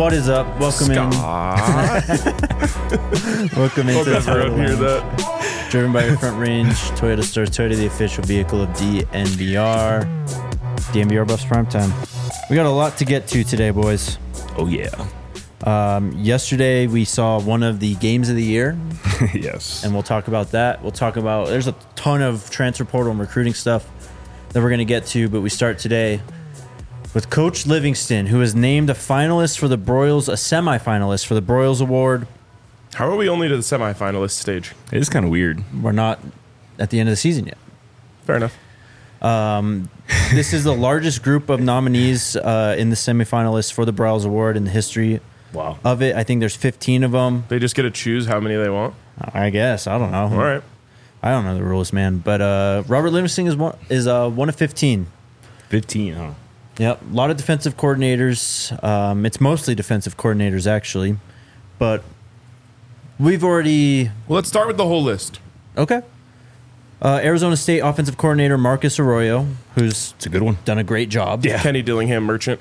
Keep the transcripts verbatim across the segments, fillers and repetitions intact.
What is up? Welcome in. Welcome into Hope everyone hear that. Driven by your Front Range Toyota Stars Toyota, the official vehicle of D N V R. D N V R Buffs Primetime. We got a lot to get to today, boys. Oh, yeah. Um, yesterday, we saw one of the games of the year. Yes. And we'll talk about that. We'll talk about, there's a ton of transfer portal and recruiting stuff that we're going to get to, but we start today with Coach Livingston, who is named a finalist for the Broyles, a semifinalist for the Broyles Award. How are we only to the semifinalist stage? It is kind of weird. We're not at the end of the season yet. Fair enough. Um, this is the largest group of nominees uh, in the semifinalists for the Broyles Award in the history Wow. of it. I think there's fifteen of them. They just get to choose how many they want. I guess. I don't know. All right. I don't know the rules, man. But uh, Robert Livingston is one, is uh, one of fifteen. fifteen, huh? Yep. A lot of defensive coordinators. Um, it's mostly defensive coordinators, actually. But we've already... Well, let's start with the whole list. Okay. Uh, Arizona State offensive coordinator Marcus Arroyo, who's It's a good one. done a great job. Yeah. Kenny Dillingham Merchant.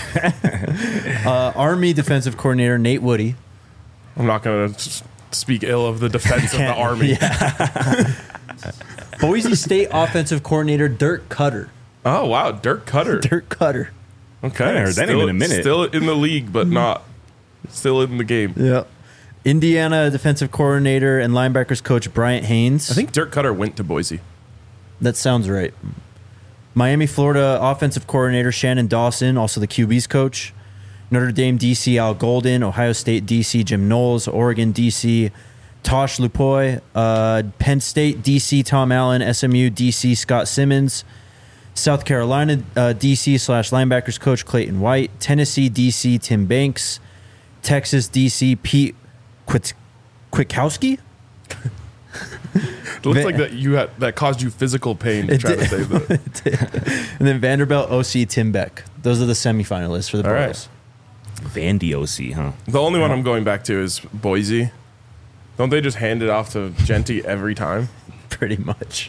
Uh, Army defensive coordinator Nate Woody. I'm not going to speak ill of the defense of the Army. Yeah. Boise State offensive coordinator Dirk Cutter. Oh, wow. Dirk Cutter. Dirk Cutter. Okay. I haven't heard that name in a minute. Still in the league, but not. Still in the game. Yeah. Indiana defensive coordinator and linebackers coach Bryant Haynes. I think Dirk Cutter went to Boise. That sounds right. Miami, Florida offensive coordinator Shannon Dawson, also the Q B's coach. Notre Dame D C Al Golden, Ohio State D C Jim Knowles, Oregon D C Tosh Lupoy, uh, Penn State D C Tom Allen, S M U D C Scott Simmons, South Carolina uh, D C slash linebackers coach Clayton White, Tennessee D C Tim Banks, Texas D C Pete Quit- Kwiatkowski. It looks like that you had that caused you physical pain It trying did. to say that. And then Vanderbilt O C Tim Beck. Those are the semifinalists for the All right. Broyles. Vandy O C, huh? The only one I'm going back to is Boise. Don't they just hand it off to Genty every time? Pretty much.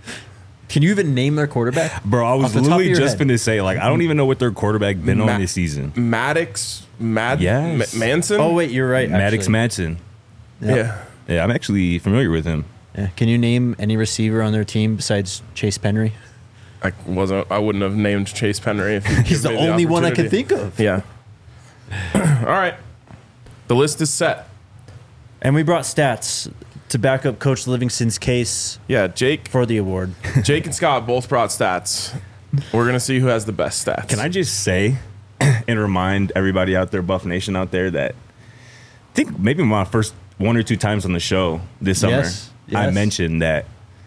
Can you even name their quarterback? Bro, I Off was the top of literally your just head. going to say, like, I don't even know what their quarterback been Ma- on this season. Maddox, Mad, Yes. Ma- Manson. Oh, wait, you're right. Maddox actually. Madsen. Yep. yeah. Yeah, I'm actually familiar with him. Yeah. Can you name any receiver on their team besides Chase Penry? I wasn't. I wouldn't have named Chase Penry. If you'd He's the given me only one I can opportunity. think of. Yeah. All right. The list is set. And we brought stats to back up Coach Livingston's case Yeah, Jake, for the award. Jake and Scott both brought stats. We're gonna see who has the best stats. Can I just say and remind everybody out there, Buff Nation out there, that I think maybe my first one or two times on the show this summer, Yes, I yes. mentioned that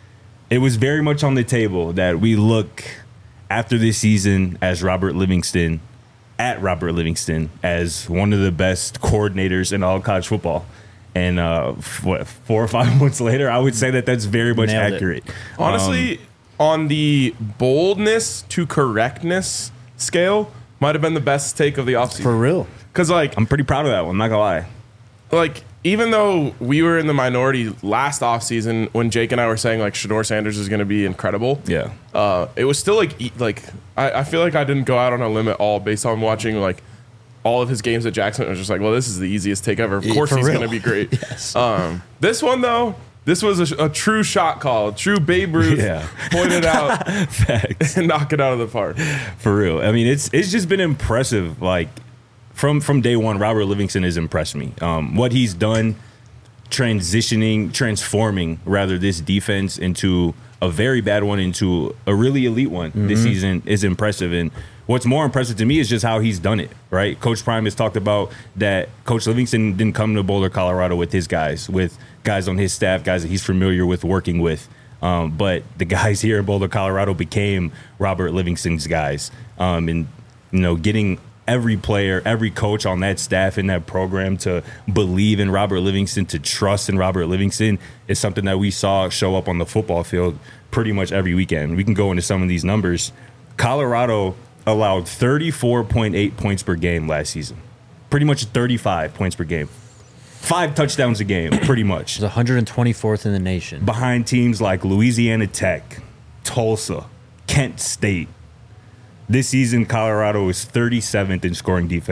it was very much on the table that we look after this season as Robert Livingston, at Robert Livingston, as one of the best coordinators in all college football. And uh, f- what, four or five months later, I would say that that's very much Nailed it. accurate. Honestly, Um, on the boldness to correctness scale, might have been the best take of the offseason. For real. Because like, I'm pretty proud of that one, not gonna lie. like even though we were in the minority last offseason when Jake and I were saying like Shador Sanders is going to be incredible, Yeah. uh, it was still like e- like I, I feel like I didn't go out on a limb at all based on watching like all of his games at Jackson. It was just like, well, this is the easiest take ever. Of Yeah, course for he's real. going to be great. Yes. Um, this one though, this was a, a true shot call, a true Babe Ruth Yeah. pointed out Facts. and knock it out of the park. For real. I mean, it's it's just been impressive. Like from from day one, Robert Livingston has impressed me. Um, what he's done, transitioning, transforming rather this defense into a very bad one into a really elite one this season is impressive. And what's more impressive to me is just how he's done it. Right, Coach Prime has talked about that. Coach Livingston didn't come to Boulder, Colorado, with his guys, with guys on his staff, guys that he's familiar with working with. Um, but the guys here in Boulder, Colorado became Robert Livingston's guys. Um, and, you know, getting every player, every coach on that staff in that program to believe in Robert Livingston, to trust in Robert Livingston is something that we saw show up on the football field pretty much every weekend. We can go into some of these numbers. Colorado allowed thirty-four point eight points per game last season. Pretty much thirty-five points per game. Five touchdowns a game, pretty much. It's one hundred twenty-fourth in the nation. Behind teams like Louisiana Tech, Tulsa, Kent State. This season, Colorado is thirty-seventh in scoring defense,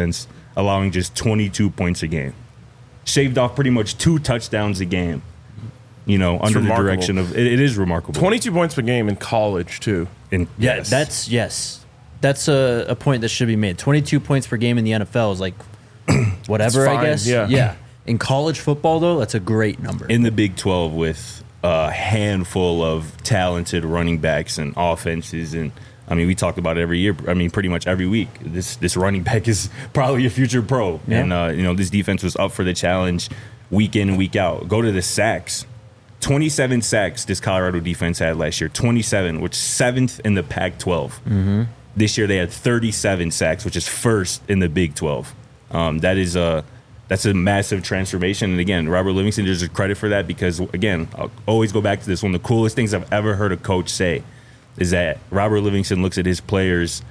allowing just twenty-two points a game. Shaved off pretty much two touchdowns a game, you know, It's under remarkable. the direction of, it, it is remarkable. twenty-two points per game in college, too. And Yeah, yes. that's yes. That's a, a point that should be made. twenty-two points per game in the N F L is like whatever, It's fine, I guess. yeah. Yeah. In college football, though, that's a great number. in the Big twelve with a handful of talented running backs and offenses. And I mean, we talk about it every year. I mean, pretty much every week. This this running back is probably a future pro. Yeah. And, uh, you know, this defense was up for the challenge week in and week out. Go to the sacks. twenty-seven sacks this Colorado defense had last year. twenty-seven, which is seventh in the Pac twelve. Mm-hmm. This year they had thirty-seven sacks, which is first in the Big twelve. Um, that is a that's a massive transformation. And again, Robert Livingston deserves credit for that because, again, I'll always go back to this. One of the coolest things I've ever heard a coach say is that Robert Livingston looks at his players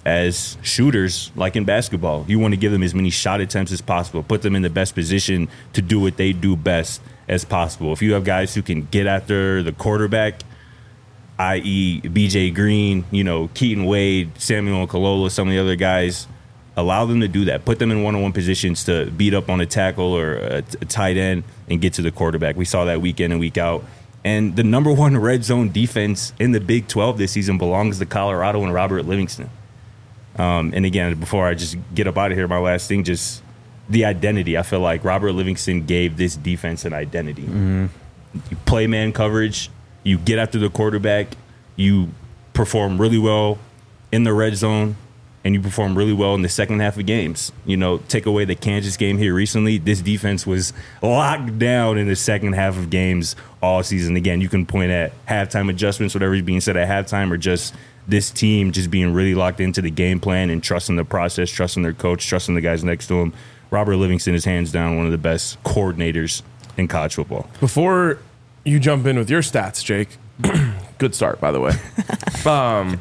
as shooters, like in basketball. You want to give them as many shot attempts as possible, put them in the best position to do what they do best as possible. If you have guys who can get after the quarterback, that is. B J Green, you know, Keaton Wade, Samuel Kalola, some of the other guys, allow them to do that. Put them in one-on-one positions to beat up on a tackle or a, a tight end and get to the quarterback. We saw that week in and week out. And the number one red zone defense in the Big twelve this season belongs to Colorado and Robert Livingston. Um, and again, before I just get up out of here, my last thing, just the identity. I feel like Robert Livingston gave this defense an identity. Mm-hmm. You play man coverage, you get after the quarterback, you perform really well in the red zone, and you perform really well in the second half of games. You know, take away the Kansas game here recently, this defense was locked down in the second half of games all season. Again, you can point at halftime adjustments, whatever is being said at halftime, or just this team just being really locked into the game plan and trusting the process, trusting their coach, trusting the guys next to him. Robert Livingston is hands down one of the best coordinators in college football. Before you jump in with your stats, Jake, good start, by the way. um,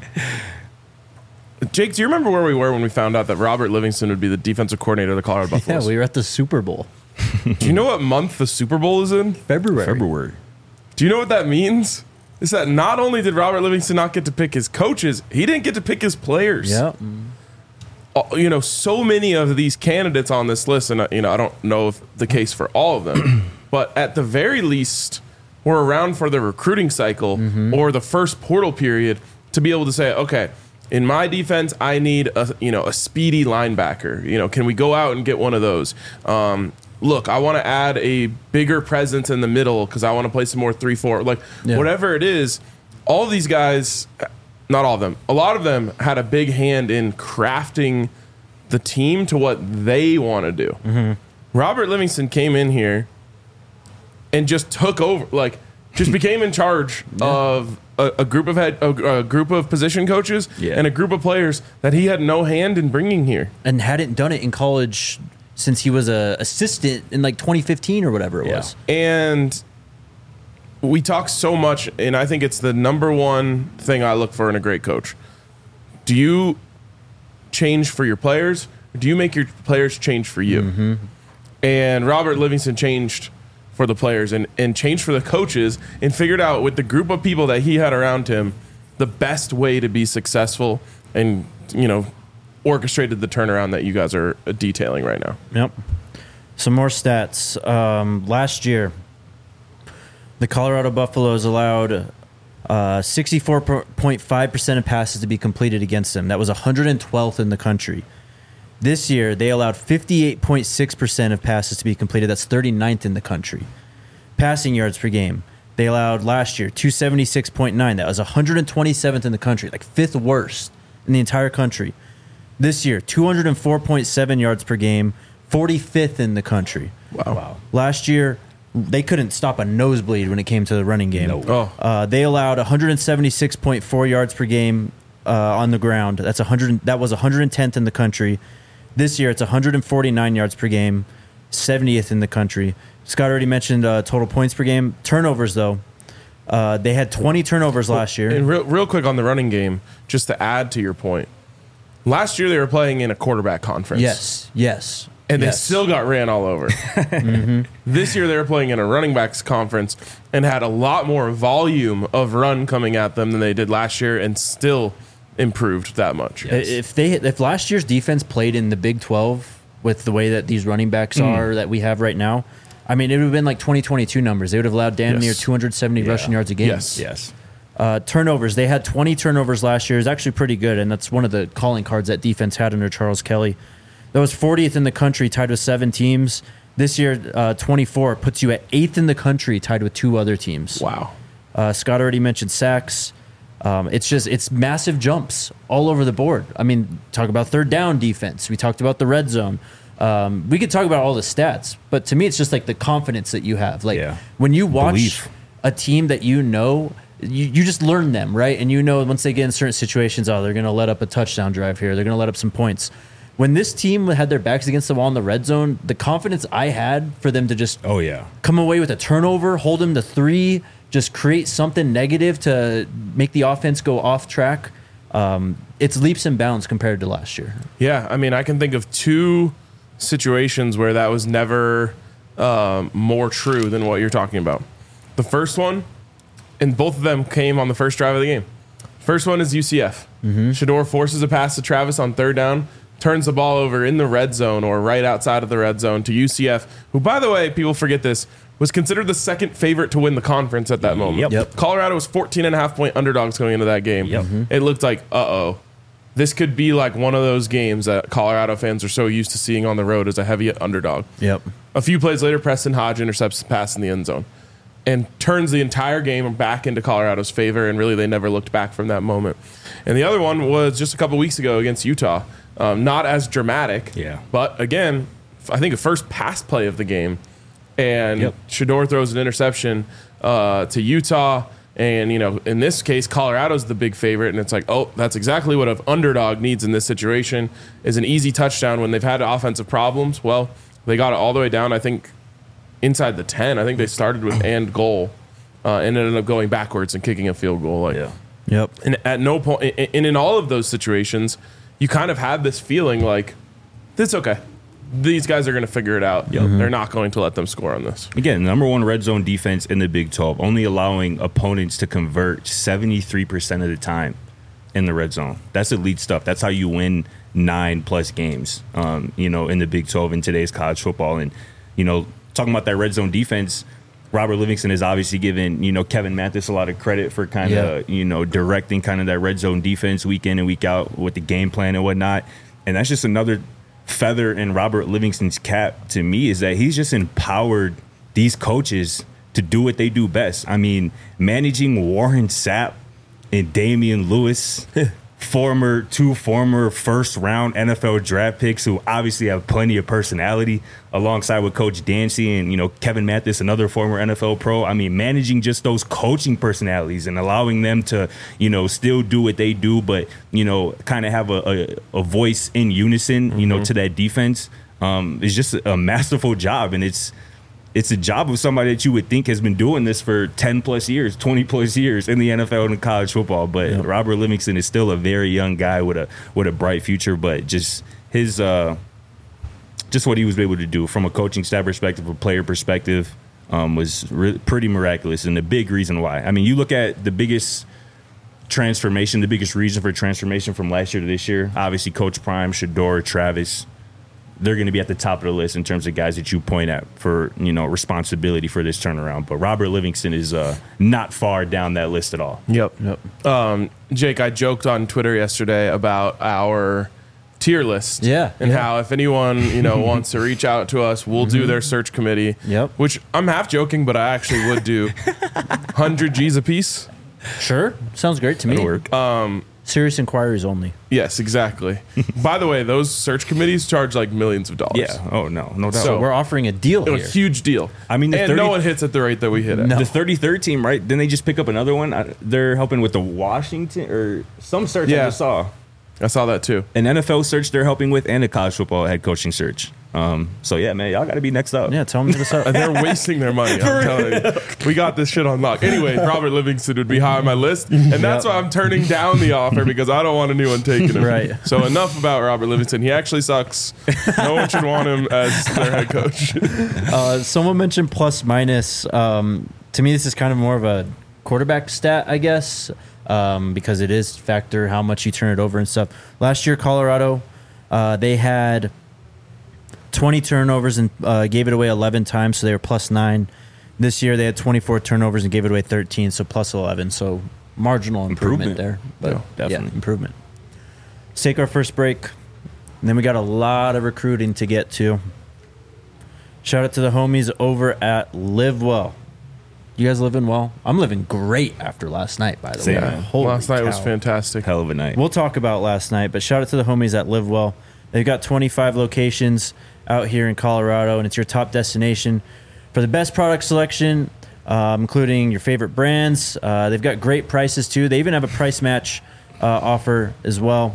Jake, do you remember where we were when we found out that Robert Livingston would be the defensive coordinator of the Colorado yeah, Buffaloes? we were at the Super Bowl. Do you know what month the Super Bowl is in? February. February. Do you know what that means? Is that not only did Robert Livingston not get to pick his coaches, he didn't get to pick his players. Yeah. Uh, You know, so many of these candidates on this list, and uh, you know, I don't know if the case for all of them, but at the very least, we're around for the recruiting cycle Mm-hmm. or the first portal period to be able to say, okay, in my defense, I need a you know a speedy linebacker. You know, can we go out and get one of those? Um, look, I want to add a bigger presence in the middle because I want to play some more three four. Like Yeah. whatever it is, all of these guys, not all of them, a lot of them had a big hand in crafting the team to what they want to do. Mm-hmm. Robert Livingston came in here and just took over, like just became in charge of a, a group of head, a, a group of position coaches Yeah. and a group of players that he had no hand in bringing here. And hadn't done it in college since he was a assistant in like twenty fifteen or whatever it Yeah. was. And we talk so much, and I think it's the number one thing I look for in a great coach. Do you change for your players, or do you make your players change for you? Mm-hmm. And Robert Livingston changed for the players and, and changed for the coaches and figured out with the group of people that he had around him the best way to be successful and, you know, orchestrated the turnaround that you guys are detailing right now. Yep. Some more stats. Um, last year, the Colorado Buffaloes allowed uh, sixty-four point five percent of passes to be completed against them. That was one hundred twelfth in the country. This year, they allowed fifty-eight point six percent of passes to be completed. That's thirty-ninth in the country. Passing yards per game, they allowed last year two seventy-six point nine. That was one hundred twenty-seventh in the country, like fifth worst in the entire country. This year, two oh four point seven yards per game, forty-fifth in the country. Wow. wow. Last year, they couldn't stop a nosebleed when it came to the running game. No. Oh. Uh, they allowed one seventy-six point four yards per game uh, on the ground. That's one hundred. That was one hundred tenth in the country. This year, it's one hundred forty-nine yards per game, seventieth in the country. Scott already mentioned uh, total points per game. Turnovers, though, uh, they had twenty turnovers last year. And real, real quick on the running game, just to add to your point, last year they were playing in a quarterback conference. Yes, yes. And they yes. still got ran all over. mm-hmm. This year they were playing in a running backs conference and had a lot more volume of run coming at them than they did last year and still improved that much. If they if last year's defense played in the Big twelve with the way that these running backs are that we have right now. I mean, it would have been like twenty twenty-two numbers. They would have allowed damn Yes. near two hundred seventy Yeah. rushing yards a game. Yes. Yes. Uh, turnovers. They had twenty turnovers last year. It's actually pretty good, and that's one of the calling cards that defense had under Charles Kelly. That was fortieth in the country, tied with seven teams. This year, uh, twenty-four puts you at eighth in the country, tied with two other teams. Wow. Uh, Scott already mentioned sacks. Um, it's just it's massive jumps all over the board. I mean, talk about third down defense. We talked about the red zone. Um, we could talk about all the stats, but to me, it's just like the confidence that you have. Like Yeah. when you watch Belief. a team that you know, you, you just learn them, right? And you know once they get in certain situations, oh, they're going to let up a touchdown drive here. They're going to let up some points. When this team had their backs against the wall in the red zone, the confidence I had for them to just Oh yeah. come away with a turnover, hold them to three, just create something negative to make the offense go off track. Um, it's leaps and bounds compared to last year. Yeah, I mean, I can think of two situations where that was never um, more true than what you're talking about. The first one, and both of them came on the first drive of the game. First one is U C F. Mm-hmm. Shador forces a pass to Travis on third down, turns the ball over in the red zone or right outside of the red zone to U C F, who, by the way, people forget this, was considered the second favorite to win the conference at that moment. Yep. Yep. Colorado was fourteen and a half point underdogs going into that game. Yep. Mhm. It looked like, uh-oh, this could be like one of those games that Colorado fans are so used to seeing on the road as a heavy underdog. Yep. A few plays later, Preston Hodge intercepts the pass in the end zone and turns the entire game back into Colorado's favor, and really they never looked back from that moment. And the other one was just a couple weeks ago against Utah. Um, not as dramatic, Yeah. but again, I think a first pass play of the game, and Yep. Shador throws an interception uh, to Utah. And, you know, in this case, Colorado's the big favorite. And it's like, oh, that's exactly what an underdog needs in this situation is an easy touchdown when they've had offensive problems. Well, they got it all the way down, I think, inside the ten. I think they started with and goal uh, and ended up going backwards and kicking a field goal. Like, Yeah. Yep. and at no point, and in all of those situations, you kind of had this feeling like, it's okay. These guys are going to figure it out. They're not going to let them score on this. Again, number one red zone defense in the Big twelve, only allowing opponents to convert seventy-three percent of the time in the red zone. That's elite stuff. That's how you win nine plus games, um, you know, in the Big twelve in today's college football. And, you know, talking about that red zone defense, Robert Livingston has obviously given, you know, Kevin Mathis a lot of credit for kind of, Yeah. you know, directing kind of that red zone defense week in and week out with the game plan and whatnot. And that's just another feather in Robert Livingston's cap to me, is that he's just empowered these coaches to do what they do best. I mean, managing Warren Sapp and Damian Lewis, former two former first round N F L draft picks who obviously have plenty of personality, alongside with Coach Dancy and, you know, Kevin Mathis, another former N F L pro. I mean, managing just those coaching personalities and allowing them to, you know, still do what they do, but, you know, kind of have a, a, a voice in unison, you know, to that defense um, is just a masterful job. And it's, It's a job of somebody that you would think has been doing this for ten plus years, twenty plus years in the N F L and in college football. But Yep. Robert Livingston is still a very young guy with a with a bright future. But just his, uh, just what he was able to do from a coaching staff perspective, a player perspective, um, was re- pretty miraculous, and the big reason why. I mean, you look at the biggest transformation, the biggest reason for transformation from last year to this year. Obviously, Coach Prime, Shador, Travis. They're going to be at the top of the list in terms of guys that you point at for, you know, responsibility for this turnaround. But Robert Livingston is uh, not far down that list at all. Yep. Yep. Um, Jake, I joked on Twitter yesterday about our tier list. Yeah, And yeah. how if anyone, you know, wants to reach out to us, we'll do their search committee. Yep. Which I'm half joking, but I actually would do one hundred G's a piece. Sure. Sounds great to me. That'll work. Serious inquiries only. Yes, exactly. By the way, those search committees charge like millions of dollars. Yeah. Oh, no. No doubt. So- We're offering a deal A here. huge deal. I mean, the and thirty no one hits at the rate that we hit at. No. the thirty-third team, right? Didn't they just pick up another one? I, they're helping with the Washington or some search Yeah. I just saw. I saw that too. An N F L search they're helping with and a college football head coaching search. Um, so, yeah, man, y'all got to be next up. Yeah, tell them to us up. And they're wasting their money. I'm telling you. We got this shit on lock. Anyway, Robert Livingston would be high on my list. And that's Yep. why I'm turning down the offer, because I don't want anyone taking him. Right. So enough about Robert Livingston. He actually sucks. No one should want him as their head coach. Uh, someone mentioned plus minus. Um, to me, this is kind of more of a quarterback stat, I guess, um, because it is factor how much you turn it over and stuff. Last year, Colorado, uh, they had twenty turnovers and uh, gave it away eleven times, so they were plus nine. This year they had twenty-four turnovers and gave it away thirteen, so plus eleven. So marginal improvement, Improvement. there. But Yeah, definitely. yeah, improvement. Let's take our first break. And then we got a lot of recruiting to get to. Shout out to the homies over at Live Well. You guys living well? I'm living great after last night, by the Same, way. man. Holy Last night was cow. fantastic. Hell of a night. We'll talk about last night, but shout out to the homies at Live Well. They've got twenty-five locations out here in Colorado, and it's your top destination for the best product selection, um, including your favorite brands. Uh, they've got great prices, too. They even have a price match uh, offer as well.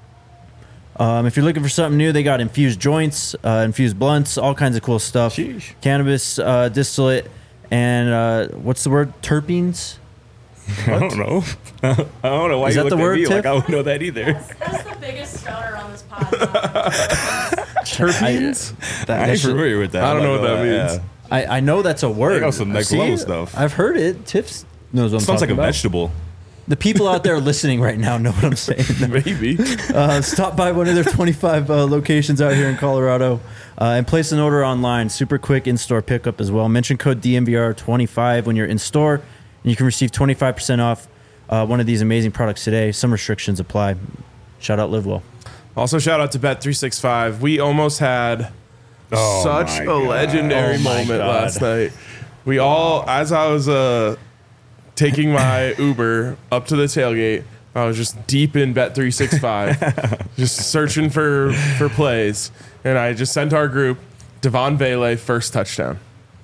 Um, if you're looking for something new, they got infused joints, uh, infused blunts, all kinds of cool stuff. Sheesh. Cannabis uh, distillate, and uh, what's the word? Terpenes? I don't know. I don't know why Is you that the looked at word, me Tiff? like I don't know that either. That's the biggest stoner on this pod. Terpenes? That- I that ain't shit- familiar with that. I don't I'm know not what that gonna lie, means. yeah. I, I know that's a word. got some next See? level stuff. I've heard it. Tips knows what I'm Sounds like talking a about. vegetable. The people out there listening right now know what I'm saying. Maybe. Uh, stop by one of their twenty-five uh, locations out here in Colorado uh, and place an order online. Super quick in-store pickup as well. Mention code D M V R twenty-five when you're in store, and you can receive twenty-five percent off uh, one of these amazing products today. Some restrictions apply. Shout out Live Well. Also, shout out to Bet three sixty-five. We almost had Oh such my a God. legendary Oh my moment God. last night. We all, as I was uh, taking my Uber up to the tailgate, I was just deep in Bet three sixty-five, just searching for, for plays. And I just sent our group, Devon Vele, first touchdown.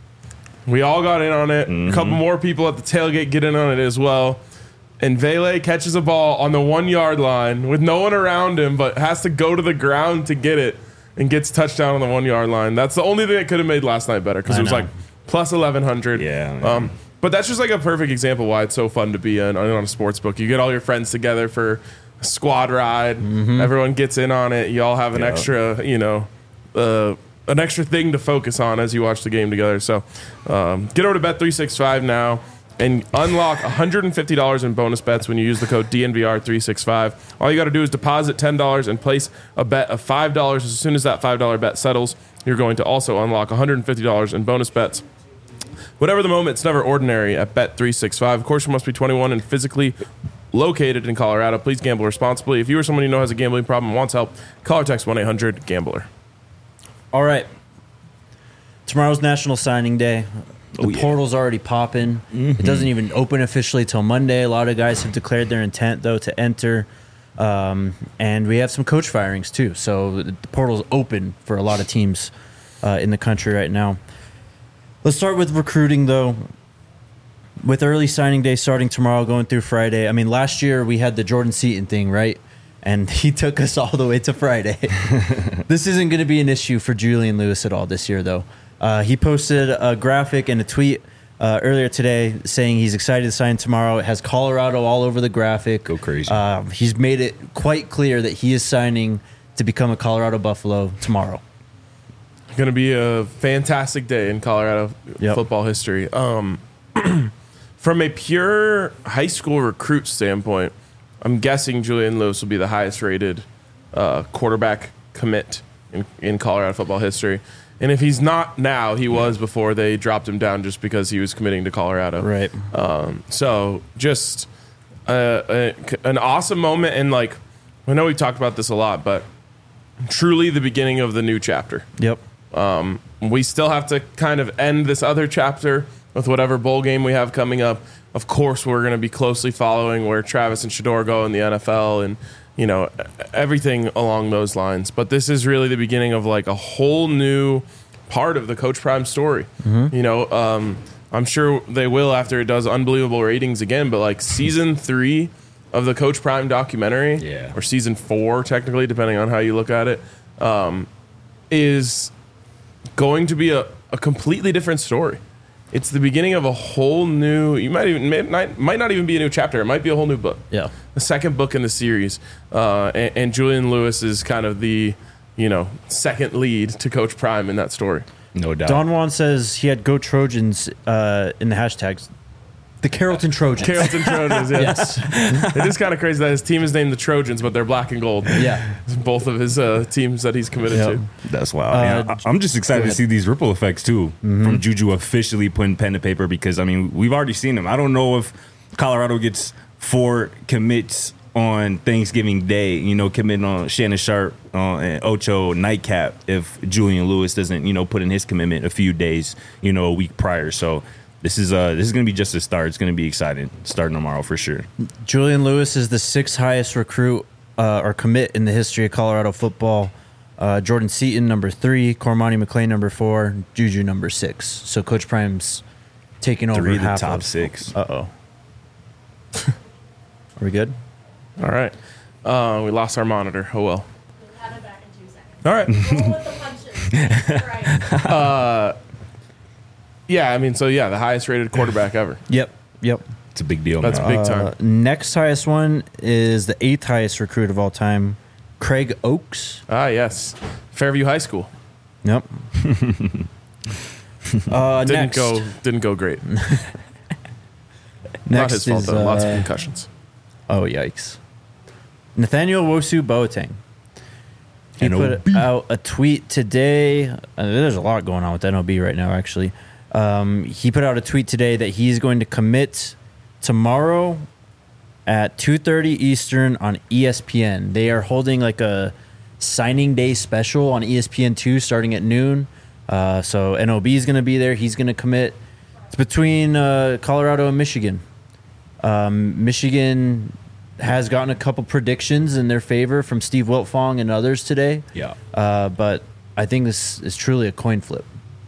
We all got in on it. A couple more people at the tailgate get in on it as well. And Vele catches a ball on the one yard line with no one around him, but has to go to the ground to get it and gets touchdown on the one yard line. That's the only thing that could have made last night better because I it was know. like plus eleven hundred. Yeah, man. Um, but that's just like a perfect example why it's so fun to be in, on a sports book. You get all your friends together for a squad ride. Everyone gets in on it. You all have an Yeah. extra, you know, uh, an extra thing to focus on as you watch the game together. So um, get over to Bet three sixty-five now and unlock one hundred fifty dollars in bonus bets when you use the code D N V R three sixty-five. All you got to do is deposit ten dollars and place a bet of five dollars. As soon as that five dollar bet settles, you're going to also unlock one hundred fifty dollars in bonus bets. Whatever the moment, it's never ordinary at Bet three sixty-five. Of course, you must be twenty-one and physically located in Colorado. Please gamble responsibly. If you or someone you know has a gambling problem and wants help, call or text one eight hundred gambler. All right. Tomorrow's National Signing Day. The Oh, yeah. portal's already popping. It doesn't even open officially till Monday. A lot of guys have declared their intent, though, to enter. Um, and we have some coach firings, too. So the portal's open for a lot of teams uh, in the country right now. Let's start with recruiting, though. With early signing day starting tomorrow, going through Friday. I mean, last year we had the Jordan Seaton thing, right? And he took us all the way to Friday. This isn't going to be an issue for Julian Lewis at all this year, though. Uh, he posted a graphic and a tweet uh, earlier today saying he's excited to sign tomorrow. It has Colorado all over the graphic. Go crazy. Uh, he's made it quite clear that he is signing to become a Colorado Buffalo tomorrow. Going to be a fantastic day in Colorado Yep. football history. Um, from a pure high school recruit standpoint, I'm guessing Julian Lewis will be the highest rated uh, quarterback commit in, in Colorado football history. And if he's not now, he was before they dropped him down just because he was committing to Colorado. Right. Um, so just uh, a, an awesome moment. And like, I know we've talked about this a lot, but truly the beginning of the new chapter. Yep. Um, we still have to kind of end this other chapter with whatever bowl game we have coming up. Of course, we're going to be closely following where Travis and Shador go in the N F L and, you know, everything along those lines. But this is really the beginning of like a whole new part of the Coach Prime story. Mm-hmm. You know, um, I'm sure they will after it does unbelievable ratings again, but like season three of the Coach Prime documentary, Yeah. or season four, technically, depending on how you look at it, um, is going to be a, a completely different story. It's the beginning of a whole new, you might even, may, might, might not even be a new chapter. It might be a whole new book. Yeah. The second book in the series. Uh, and, and Julian Lewis is kind of the, you know, second lead to Coach Prime in that story. No doubt. Don Juan says he had Go Trojans uh, in the hashtags. The Carrollton Trojans. Carrollton Trojans, yeah. Yes. It is kind of crazy that his team is named the Trojans, but they're black and gold. Yeah. Both of his uh, teams that he's committed Yep. to. That's wild. Uh, Yeah, I- I'm just excited to see these ripple effects too from Juju officially putting pen to paper because I mean we've already seen them. I don't know if Colorado gets four commits on Thanksgiving Day, you know, committing on Shannon Sharp uh, and Ocho nightcap if Julian Lewis doesn't, you know, put in his commitment a few days, you know, a week prior. So this is uh this is gonna be just a start. It's gonna be exciting starting tomorrow for sure. Julian Lewis is the sixth highest recruit uh, or commit in the history of Colorado football. Uh, Jordan Seaton, number three. Cormani McClain, number four. Juju, number six. So Coach Prime's taking over Three of the half top of, six. Uh-oh. Are we good? All right. Uh, we lost our monitor. Oh, well. We'll have it back in two seconds. All right. Roll with the punches. Right. Yeah, I mean, so yeah, the highest rated quarterback ever. Yep. Yep. It's a big deal. That's man. big Uh, time. next highest one is the eighth highest recruit of all time, Craig Oaks. Ah, yes. Fairview High School. Yep. uh, Didn't next, go didn't go great. next Not his fault, is, though. Lots of uh, concussions. Oh, yikes. Nathaniel Wosu Boateng. He N O B. put out a tweet today. Uh, there's a lot going on with N O B right now, actually. Um, he put out a tweet today that he's going to commit tomorrow at two thirty Eastern on E S P N. They are holding like a signing day special on E S P N two starting at noon. Uh, so N O B is going to be there. He's going to commit. It's between uh, Colorado and Michigan. Um, Michigan has gotten a couple predictions in their favor from Steve Wiltfong and others today. Yeah. Uh, but I think this is truly a coin flip.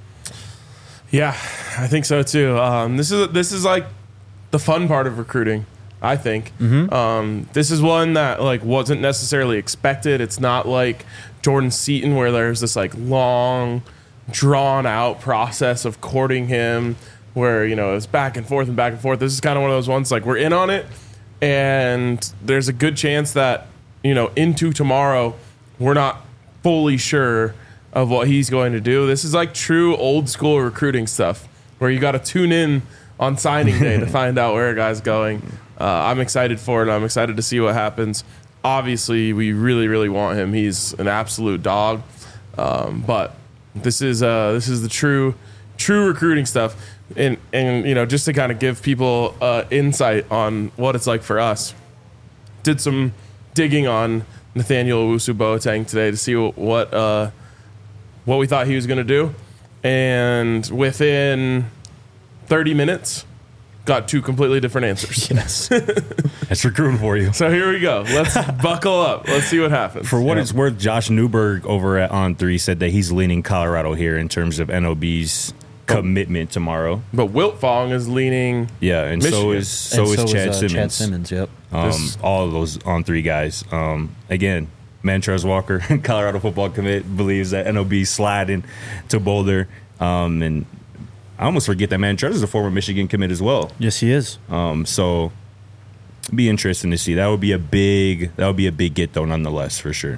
Yeah, I think so too. Um, this is this is like the fun part of recruiting. I think um, this is one that like wasn't necessarily expected. It's not like Jordan Seaton where there's this like long, drawn out process of courting him, where you know it's back and forth and back and forth. This is kind of one of those ones like we're in on it, and there's a good chance that you know into tomorrow we're not fully sure of what he's going to do. This is like true old school recruiting stuff where you got to tune in on signing day to find out where a guy's going. Uh, I'm excited for it. I'm excited to see what happens. Obviously, we really, really want him. He's an absolute dog. Um, but this is uh, this is the true true recruiting stuff. And, and you know, just to kind of give people uh, insight on what it's like for us, did some digging on Nathaniel Owusu Boateng today to see what uh, what we thought he was going to do. And within thirty minutes, got two completely different answers. Yes. That's recruiting for you. So here we go. Let's buckle up. Let's see what happens. For what it's worth, Josh Newberg over at On three said that he's leaning Colorado here in terms of N O B's commitment tomorrow. But Wiltfong is leaning. Yeah, and so Michigan. is so And is Chad uh, Simmons. Chad Simmons, yep. Um, This- all of those On three guys. Um, again, Mantrez Walker, Colorado football commit, believes that N O B sliding to Boulder. Um, and I almost forget that Mantrez is a former Michigan commit as well. Yes, he is. Um, so it'd be interesting to see. That would be a big that would be a big get though, nonetheless, for sure.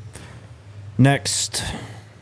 Next,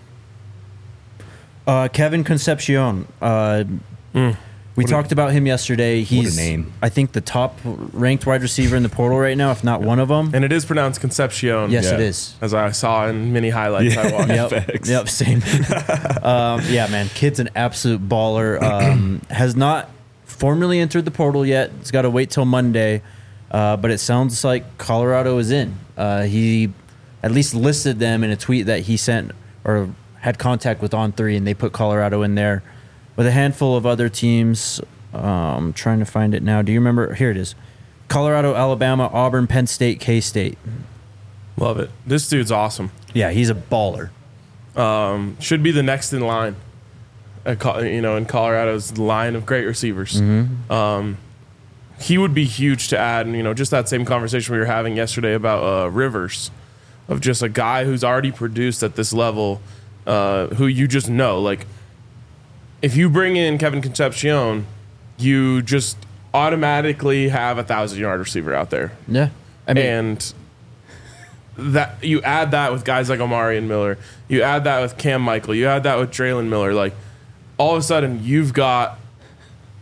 uh, Kevin Concepcion. Uh, we talked about him yesterday. He's, name. I think, the top ranked wide receiver in the portal right now, if not one of them. And it is pronounced Concepcion. Yes, Yeah. it is. As I saw in many highlights I watched. Yep. Facts. Yep. Same. um, yeah, man. Kid's an absolute baller. Um, has not formally entered the portal yet. He's got to wait till Monday. Uh, but it sounds like Colorado is in. Uh, he at least listed them in a tweet that he sent or had contact with On three, and they put Colorado in there with a handful of other teams. Um, trying to find it now. Do you remember? Here it is. Colorado, Alabama, Auburn, Penn State, K-State. Love it. This dude's awesome. Yeah, he's a baller. Um, should be the next in line. At, Co- you know, in Colorado's line of great receivers. Um, he would be huge to add. And, you know, just that same conversation we were having yesterday about uh, Rivers, of just a guy who's already produced at this level, uh, who you just know. Like, if you bring in Kevin Concepcion, you just automatically have a thousand-yard receiver out there. Yeah. I mean, And that you add that with guys like Omari and Miller, you add that with Cam Michael, you add that with Draylon Miller, like all of a sudden you've got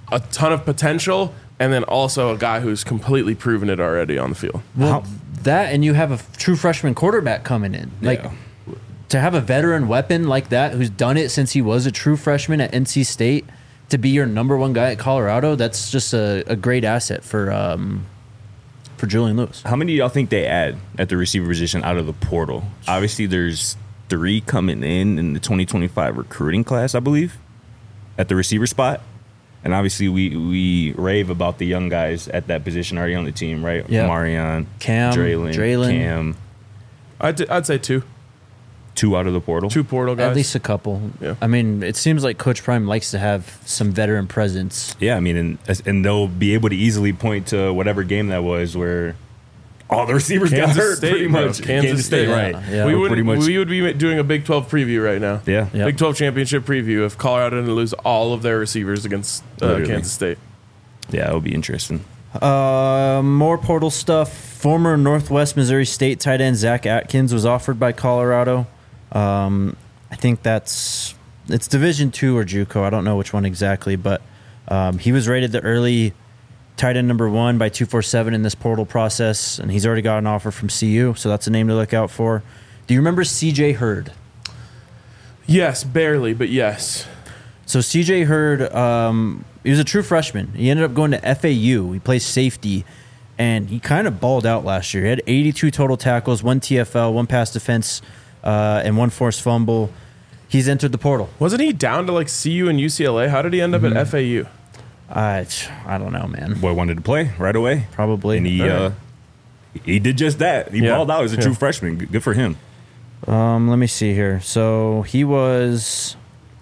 a ton of potential, and then also a guy who's completely proven it already on the field. Well, that and you have a f- true freshman quarterback coming in. Like Yeah. to have a veteran weapon like that who's done it since he was a true freshman at N C State to be your number one guy at Colorado, that's just a, a great asset for um, for Julian Lewis. How many do y'all think they add at the receiver position out of the portal? Obviously, there's three coming in in the twenty twenty-five recruiting class, I believe, at the receiver spot. And obviously, we we rave about the young guys at that position already on the team, right? Yeah. Marion, Cam, Draylon, Draylon. Cam. I'd, I'd say two. Two out of the portal. Two portal guys. At least a couple. Yeah. I mean, it seems like Coach Prime likes to have some veteran presence. Yeah, I mean, and and they'll be able to easily point to whatever game that was where all the receivers Kansas got hurt, State, pretty bro. much. Kansas State, right? yeah. Yeah. we, Or would, pretty much. we would be doing a Big twelve preview right now. Yeah. Yeah. Big twelve championship preview if Colorado didn't lose all of their receivers against uh, Literally. Kansas State. Yeah, it'll be interesting. Uh, more portal stuff. Former Northwest Missouri State tight end Zach Atkins was offered by Colorado. Um, I think that's it's Division Two or JUCO. I don't know which one exactly, but um, he was rated the early tight end number one by two forty-seven in this portal process, and he's already got an offer from C U, so that's a name to look out for. Do you remember C J Hurd? Yes, barely, but yes. So C J Hurd, um, he was a true freshman. He ended up going to F A U. He plays safety, and he kind of balled out last year. He had eighty-two total tackles, one T F L, one pass defense, uh, and one forced fumble. He's entered the portal. Wasn't he down to like C U and U C L A? How did he end up Mm-hmm. at F A U? I, I don't know, man. Boy wanted to play right away. Probably. And he All right. uh, he did just that. He Yeah. balled out as a Yeah. true freshman. Good for him. Um, let me see here. So he was,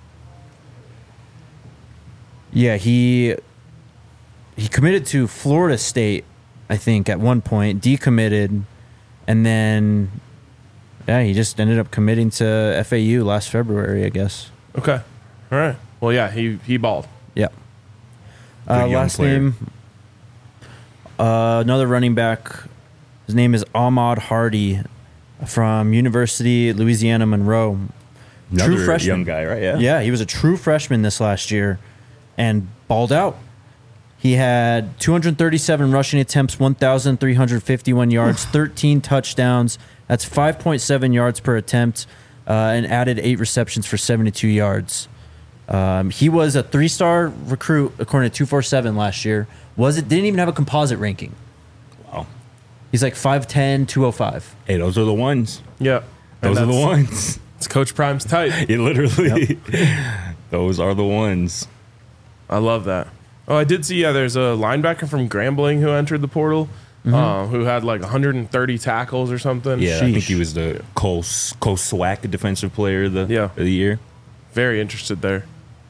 yeah, he he committed to Florida State, I think, at one point, decommitted, and then yeah, he just ended up committing to F A U last February, I guess. Okay. All right. Well, yeah, he he balled. Yeah. Uh, Good young last player. name, uh, another running back. His name is Ahmad Hardy from University of Louisiana Monroe. Another True freshman. young guy, right? Yeah. Yeah, he was a true freshman this last year and balled out. He had two hundred thirty-seven rushing attempts, one thousand three hundred fifty-one yards, thirteen touchdowns. That's five point seven yards per attempt, uh, and added eight receptions for seventy-two yards. Um, he was a three-star recruit according to two forty-seven last year. Was it didn't even have a composite ranking. Wow. He's like five ten, two oh five. Hey, those are the ones. Yeah. Those are And the that's- ones. It's Coach Prime's type. It literally. Those are the ones. I love that. Oh, I did see. Yeah, there's a linebacker from Grambling who entered the portal, uh, who had like one hundred thirty tackles or something. Yeah, I think Sheesh. he was the Cole, Cole Swack defensive player of the, Yeah. of the year. Very interested there.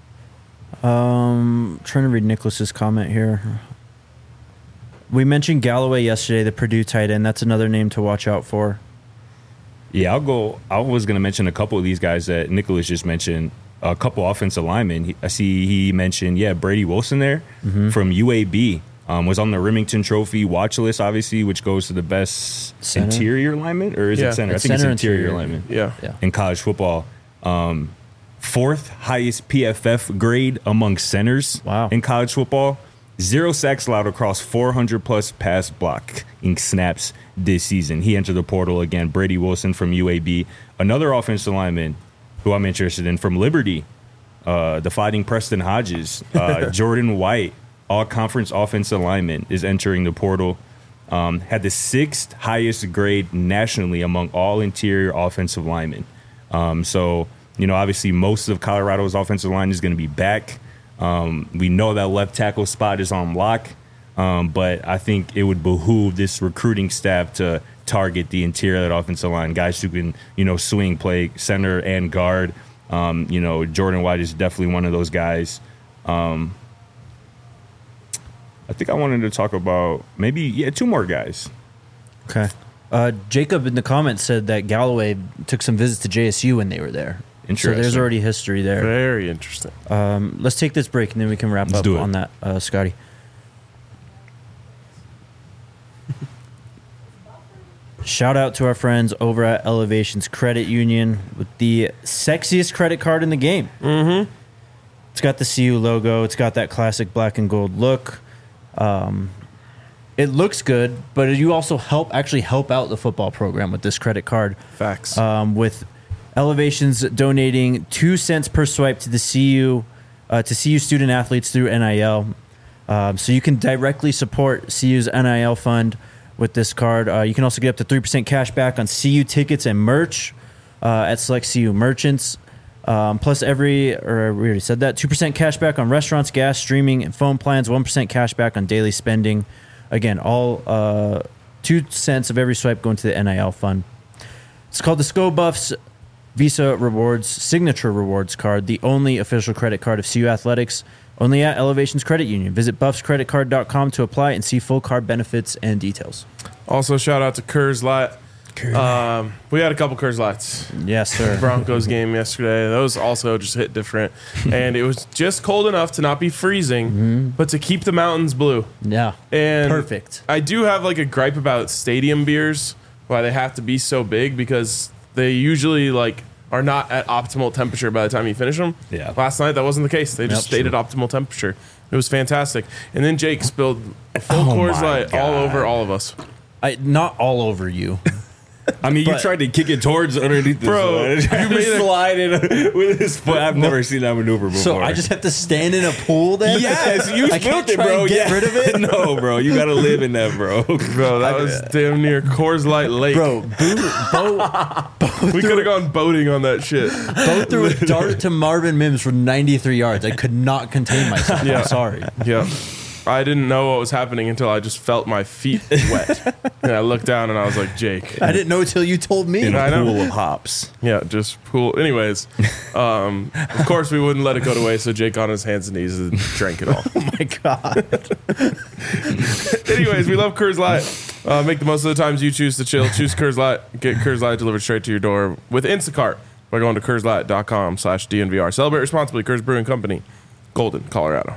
Um, trying to read Nicholas's comment here. We mentioned Galloway yesterday, the Purdue tight end. That's another name to watch out for. Yeah, I'll go. I was going to mention a couple of these guys that Nicholas just mentioned. A couple offensive linemen. He, I see he mentioned, yeah, Brady Wilson there from U A B. Um, was on the Remington Trophy watch list, obviously, which goes to the best Center? interior lineman, or is Yeah. it center? It's I think center it's interior, interior. lineman Yeah. Yeah. in college football. Um, fourth highest P F F grade among centers Wow. in college football. Zero sacks allowed across four hundred plus pass blocking snaps this season. He entered the portal again. Brady Wilson from U A B. Another offensive lineman who I'm interested in from Liberty, uh, the Fighting Preston Hodges. Uh, Jordan White, all-conference offensive lineman, is entering the portal. Um, had the sixth highest grade nationally among all interior offensive linemen. Um, so, you know, obviously most of Colorado's offensive line is going to be back. Um, we know that left tackle spot is on lock, um, but I think it would behoove this recruiting staff to target the interior of that offensive line, guys who can, you know, swing play center and guard. Um, you know, Jordan White is definitely one of those guys. Um, I think I wanted to talk about maybe, yeah, two more guys. Okay. Uh, Jacob in the comments said that Galloway took some visits to J S U when they were there. So Interesting. there's already history there. Very interesting. Um, let's take this break and then we can wrap Let's up do it. on that, uh, Scotty. Shout out to our friends over at Elevations Credit Union with the sexiest credit card in the game. Mm-hmm. It's got the C U logo. It's got that classic black and gold look. Um, it looks good, but you also help actually help out the football program with this credit card. Facts. Um, with Elevations donating two cents per swipe to the C U uh, to C U student athletes through N I L. Um, so you can directly support C U's N I L fund with this card. Uh, you can also get up to three percent cash back on C U tickets and merch uh, at select C U merchants. Um, plus every, or we already said that, two percent cash back on restaurants, gas, streaming, and phone plans, one percent cash back on daily spending. Again, all uh, two cents of every swipe going to the N I L fund. It's called the Sco Buffs Visa Rewards Signature Rewards Card, the only official credit card of C U Athletics, only at Elevations Credit Union. Visit buffs credit card dot com to apply and see full card benefits and details. Also, shout out to Coors Light. Um, we had a couple Coors Lights. Yes, sir. Broncos game yesterday. Those also just hit different. And it was just cold enough to not be freezing, mm-hmm. but to keep the mountains blue. Yeah. And perfect. I do have like a gripe about stadium beers, why they have to be so big, because they usually like are not at optimal temperature by the time you finish them. Yeah. Last night, that wasn't the case. They just Yep, stayed true. at optimal temperature. It was fantastic. And then Jake spilled a full Oh Coors my Light all God. over all of us. I, not all over you. I mean, you But- tried to kick it towards underneath the Bro, you you made a- slide it with his foot. I've never seen that maneuver before. So I just have to stand in a pool then? yes, you I can't spilled it, try bro. and get Yeah. rid of it? No, bro, you got to live in that, bro. Bro, that was damn near Coors Light Lake. Bro, Bo, Bo, we could have gone boating on that shit. Bo threw a dart to Marvin Mims for ninety-three yards. I could not contain myself. Yeah. I'm sorry. Yeah. I didn't know what was happening until I just felt my feet wet. And I looked down and I was like, Jake. I didn't know until you told me. In I a know. pool of hops. Yeah, just pool. Anyways, um, of course we wouldn't let it go to waste, so Jake on his hands and knees and drank it all. Oh my God. Anyways, we love Coors Light. Uh, make the most of the times you choose to chill. Choose Coors Light. Get Coors Light delivered straight to your door with Instacart by going to Coors Light dot com slash D N V R. Celebrate responsibly. Coors Brewing Company, Golden, Colorado.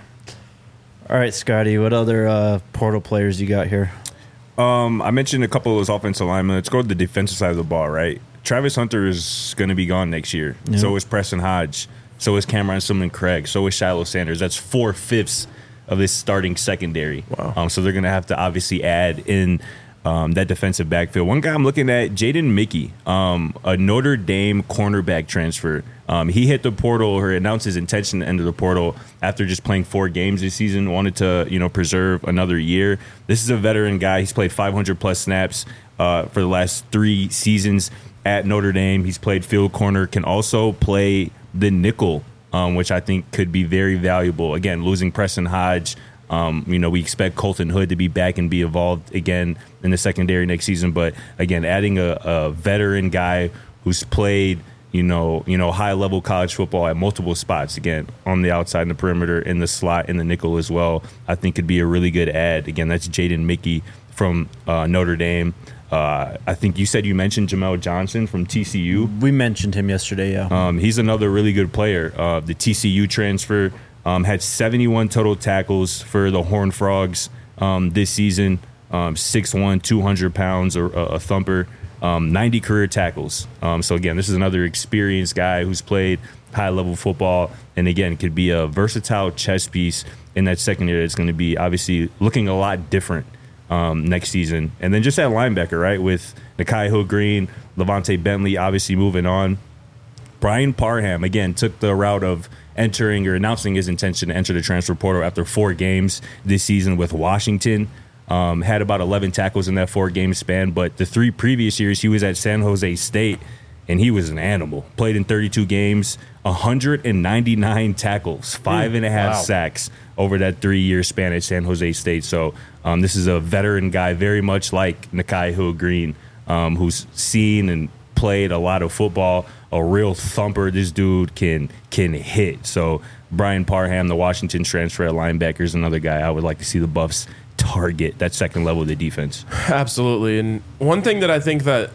All right, Scotty, what other uh, portal players you got here? Um, I mentioned a couple of those offensive linemen. Let's go to the defensive side of the ball, right? Travis Hunter is going to be gone next year. Yeah. So is Preston Hodge. So is Cameron Simon Craig. So is Shiloh Sanders. That's four-fifths of this starting secondary. Wow. Um, so they're going to have to obviously add in um, that defensive backfield. One guy I'm looking at, Jaden Mickey, um, a Notre Dame cornerback transfer. Um, he hit the portal or announced his intention to enter the portal after just playing four games this season. Wanted to, you know, preserve another year. This is a veteran guy. He's played five hundred plus snaps uh, for the last three seasons at Notre Dame. He's played field corner. Can also play the nickel, um, which I think could be very valuable. Again, losing Preston Hodge. Um, you know, we expect Colton Hood to be back and be involved again in the secondary next season. But again, adding a, a veteran guy who's played, you know, you know, high level college football at multiple spots, again, on the outside, in the perimeter, in the slot, in the nickel as well, I think could be a really good add. Again, that's Jaden Mickey from uh, Notre Dame. Uh, I think you said you mentioned Jamel Johnson from T C U. We mentioned him yesterday, yeah. Um, he's another really good player. Uh, the T C U transfer um, had seventy-one total tackles for the Horned Frogs um, this season. Um, six one, two hundred pounds, or a, a thumper. Um, ninety career tackles. Um, so again, this is another experienced guy who's played high level football, and again could be a versatile chess piece in that secondary. It's going to be obviously looking a lot different um, next season. And then just at linebacker, right, with Nakai Hill-Green, Levante Bentley obviously moving on. Brian Parham again took the route of entering or announcing his intention to enter the transfer portal after four games this season with Washington. Um, had about eleven tackles in that four-game span, but the three previous years he was at San Jose State, and he was an animal. Played in thirty-two games, one hundred ninety-nine tackles, five and a half Wow. sacks over that three-year span at San Jose State. So um, this is a veteran guy, very much like Nakai Hill-Green, um, who's seen and played a lot of football, a real thumper. This dude can can hit. So Brian Parham, the Washington transfer at linebacker, is another guy I would like to see the Buffs target, that second level of the defense. Absolutely. And one thing that I think that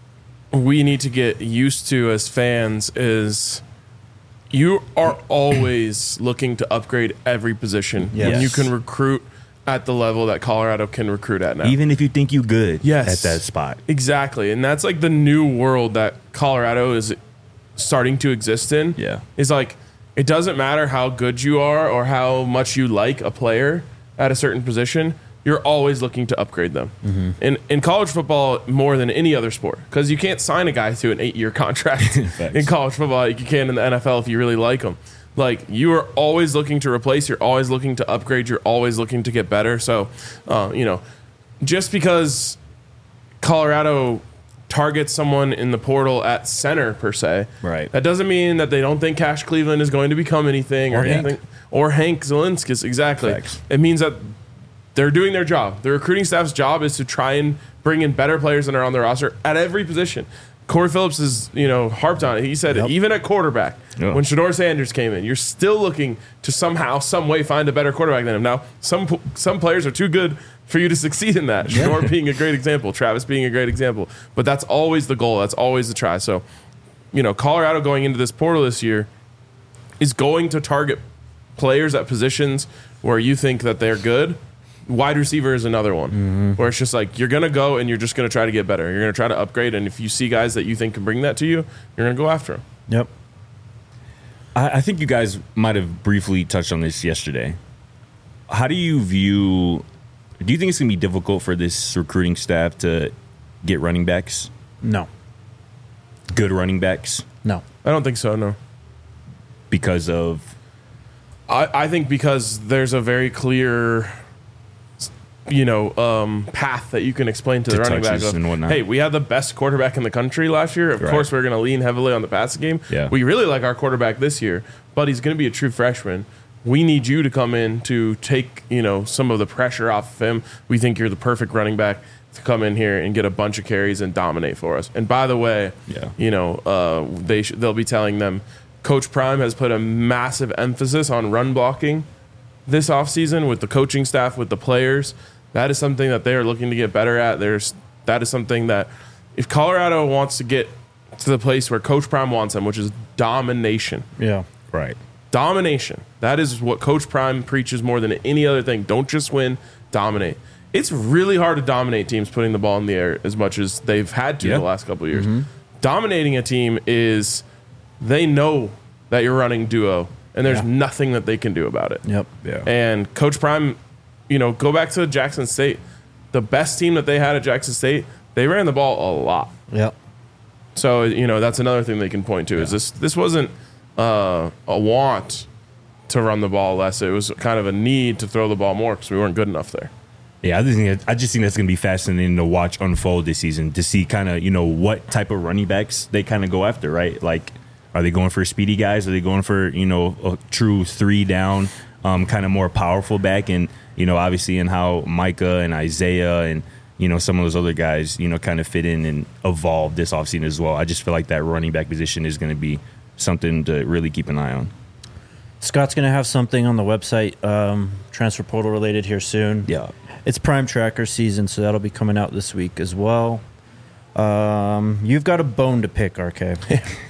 we need to get used to as fans is you are always looking to upgrade every position. Yes. And you can recruit at the level that Colorado can recruit at now. Even if you think you good Yes. at that spot. Exactly. And that's like the new world that Colorado is starting to exist in. Yeah. Is like, it doesn't matter how good you are or how much you like a player at a certain position. You're always looking to upgrade them. Mm-hmm. In in college football, more than any other sport, because you can't sign a guy to an eight-year contract in college football like you can in the N F L if you really like him. Like, you are always looking to replace. You're always looking to upgrade. You're always looking to get better. So, uh, you know, just because Colorado targets someone in the portal at center per se, right, that doesn't mean that they don't think Cash Cleveland is going to become anything or, or anything, Hank. or Hank Zielinskis. Exactly. Facts. It means that they're doing their job. The recruiting staff's job is to try and bring in better players than are on their roster at every position. Corey Phillips is, you know, harped on it. He said, yep. even at quarterback, yep. when Shedeur Sanders came in, you're still looking to somehow, some way find a better quarterback than him. Now, some some players are too good for you to succeed in that. Yeah. Shedeur being a great example, Travis being a great example. But that's always the goal. That's always the try. So, you know, Colorado going into this portal this year is going to target players at positions where you think that they're good. Wide receiver is another one, mm-hmm. where it's just like you're going to go and you're just going to try to get better. You're going to try to upgrade, and if you see guys that you think can bring that to you, you're going to go after them. Yep. I, I think you guys might have briefly touched on this yesterday. How do you view – do you think it's going to be difficult for this recruiting staff to get running backs? No. Good running backs? No. I don't think so, no. Because of – I, I think because there's a very clear – you know, um, path that you can explain to, to the running back of, hey, we had the best quarterback in the country last year. Of right. course, we're going to lean heavily on the passing game. Yeah. We really like our quarterback this year, but he's going to be a true freshman. We need you to come in to take, you know, some of the pressure off of him. We think you're the perfect running back to come in here and get a bunch of carries and dominate for us. And by the way, yeah. you know, uh, they sh- they'll be telling them Coach Prime has put a massive emphasis on run blocking this offseason with the coaching staff, with the players. That is something that they are looking to get better at. There's that is something that if Colorado wants to get to the place where Coach Prime wants them, which is domination. Yeah. Right. Domination. That is what Coach Prime preaches more than any other thing. Don't just win, dominate. It's really hard to dominate teams putting the ball in the air as much as they've had to yeah. the last couple of years. Mm-hmm. Dominating a team is they know that you're running duo, and there's yeah. nothing that they can do about it. Yep. Yeah. And Coach Prime, you know, go back to Jackson State. The best team that they had at Jackson State, they ran the ball a lot. Yep. So, you know, that's another thing they can point to. Yeah. Is this this wasn't uh, a want to run the ball less. It was kind of a need to throw the ball more because we weren't good enough there. Yeah, I just think I just think that's going to be fascinating to watch unfold this season, to see kind of, you know, what type of running backs they kind of go after, right? Like, are they going for speedy guys? Are they going for, you know, a true three down, um, kind of more powerful back? And, you know, obviously in how Micah and Isaiah and, you know, some of those other guys, you know, kind of fit in and evolve this offseason as well. I just feel like that running back position is going to be something to really keep an eye on. Scott's going to have something on the website, um, transfer portal related here soon. Yeah. It's Prime Tracker season, so that'll be coming out this week as well. Um, you've got a bone to pick, R K.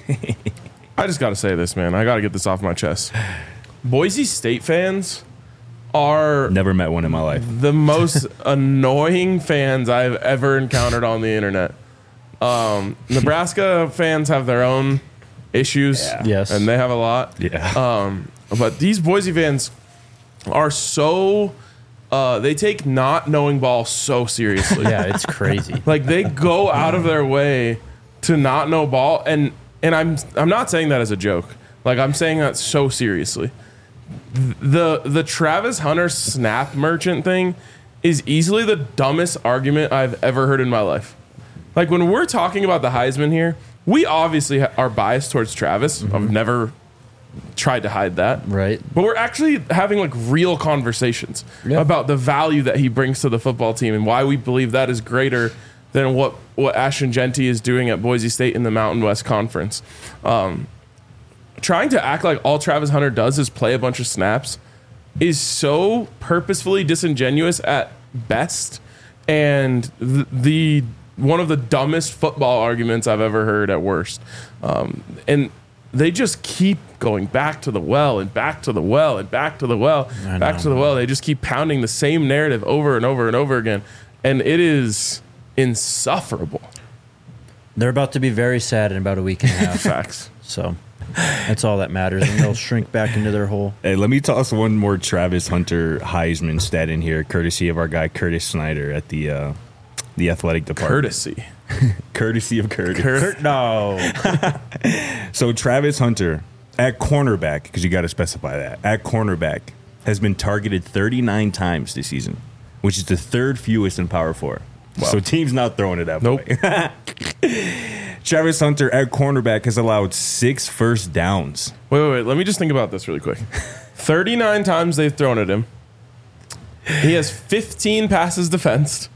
I just got to say this, man. I got to get this off my chest. Boise State fans are never met one in my life. The most annoying fans I've ever encountered on the internet. Um, Nebraska fans have their own issues, yeah. yes, and they have a lot. Yeah. Um, but these Boise fans are so. Uh, they take not knowing ball so seriously. Yeah, it's crazy. Like they go out of their way to not know ball, and and I'm I'm not saying that as a joke. Like I'm saying that so seriously. The the Travis Hunter snap merchant thing is easily the dumbest argument I've ever heard in my life. Like when we're talking about the Heisman here, we obviously are biased towards Travis. Mm-hmm. I've never tried to hide that. Right. But we're actually having like real conversations yep. about the value that he brings to the football team and why we believe that is greater than what, what Ashton Jeanty is doing at Boise State in the Mountain West Conference. Um, trying to act like all Travis Hunter does is play a bunch of snaps is so purposefully disingenuous at best, and the, the one of the dumbest football arguments I've ever heard at worst. Um, and they just keep going back to the well and back to the well and back to the well, back to the well. They just keep pounding the same narrative over and over and over again. And it is insufferable. They're about to be very sad in about a week and a half. Facts. So That's all that matters, and they'll shrink back into their hole. Hey, let me toss one more Travis Hunter Heisman stat in here, courtesy of our guy Curtis Snyder at the uh, the athletic department. Courtesy. Courtesy of Curtis. Kurt, no. So Travis Hunter at cornerback, because you got to specify that, at cornerback has been targeted thirty-nine times this season, which is the third fewest in Power Four. Wow. So teams not throwing it that Nope. way. Travis Hunter at cornerback has allowed six first downs. Wait, wait, wait. Let me just think about this really quick. thirty-nine times they've thrown at him. He has fifteen passes defensed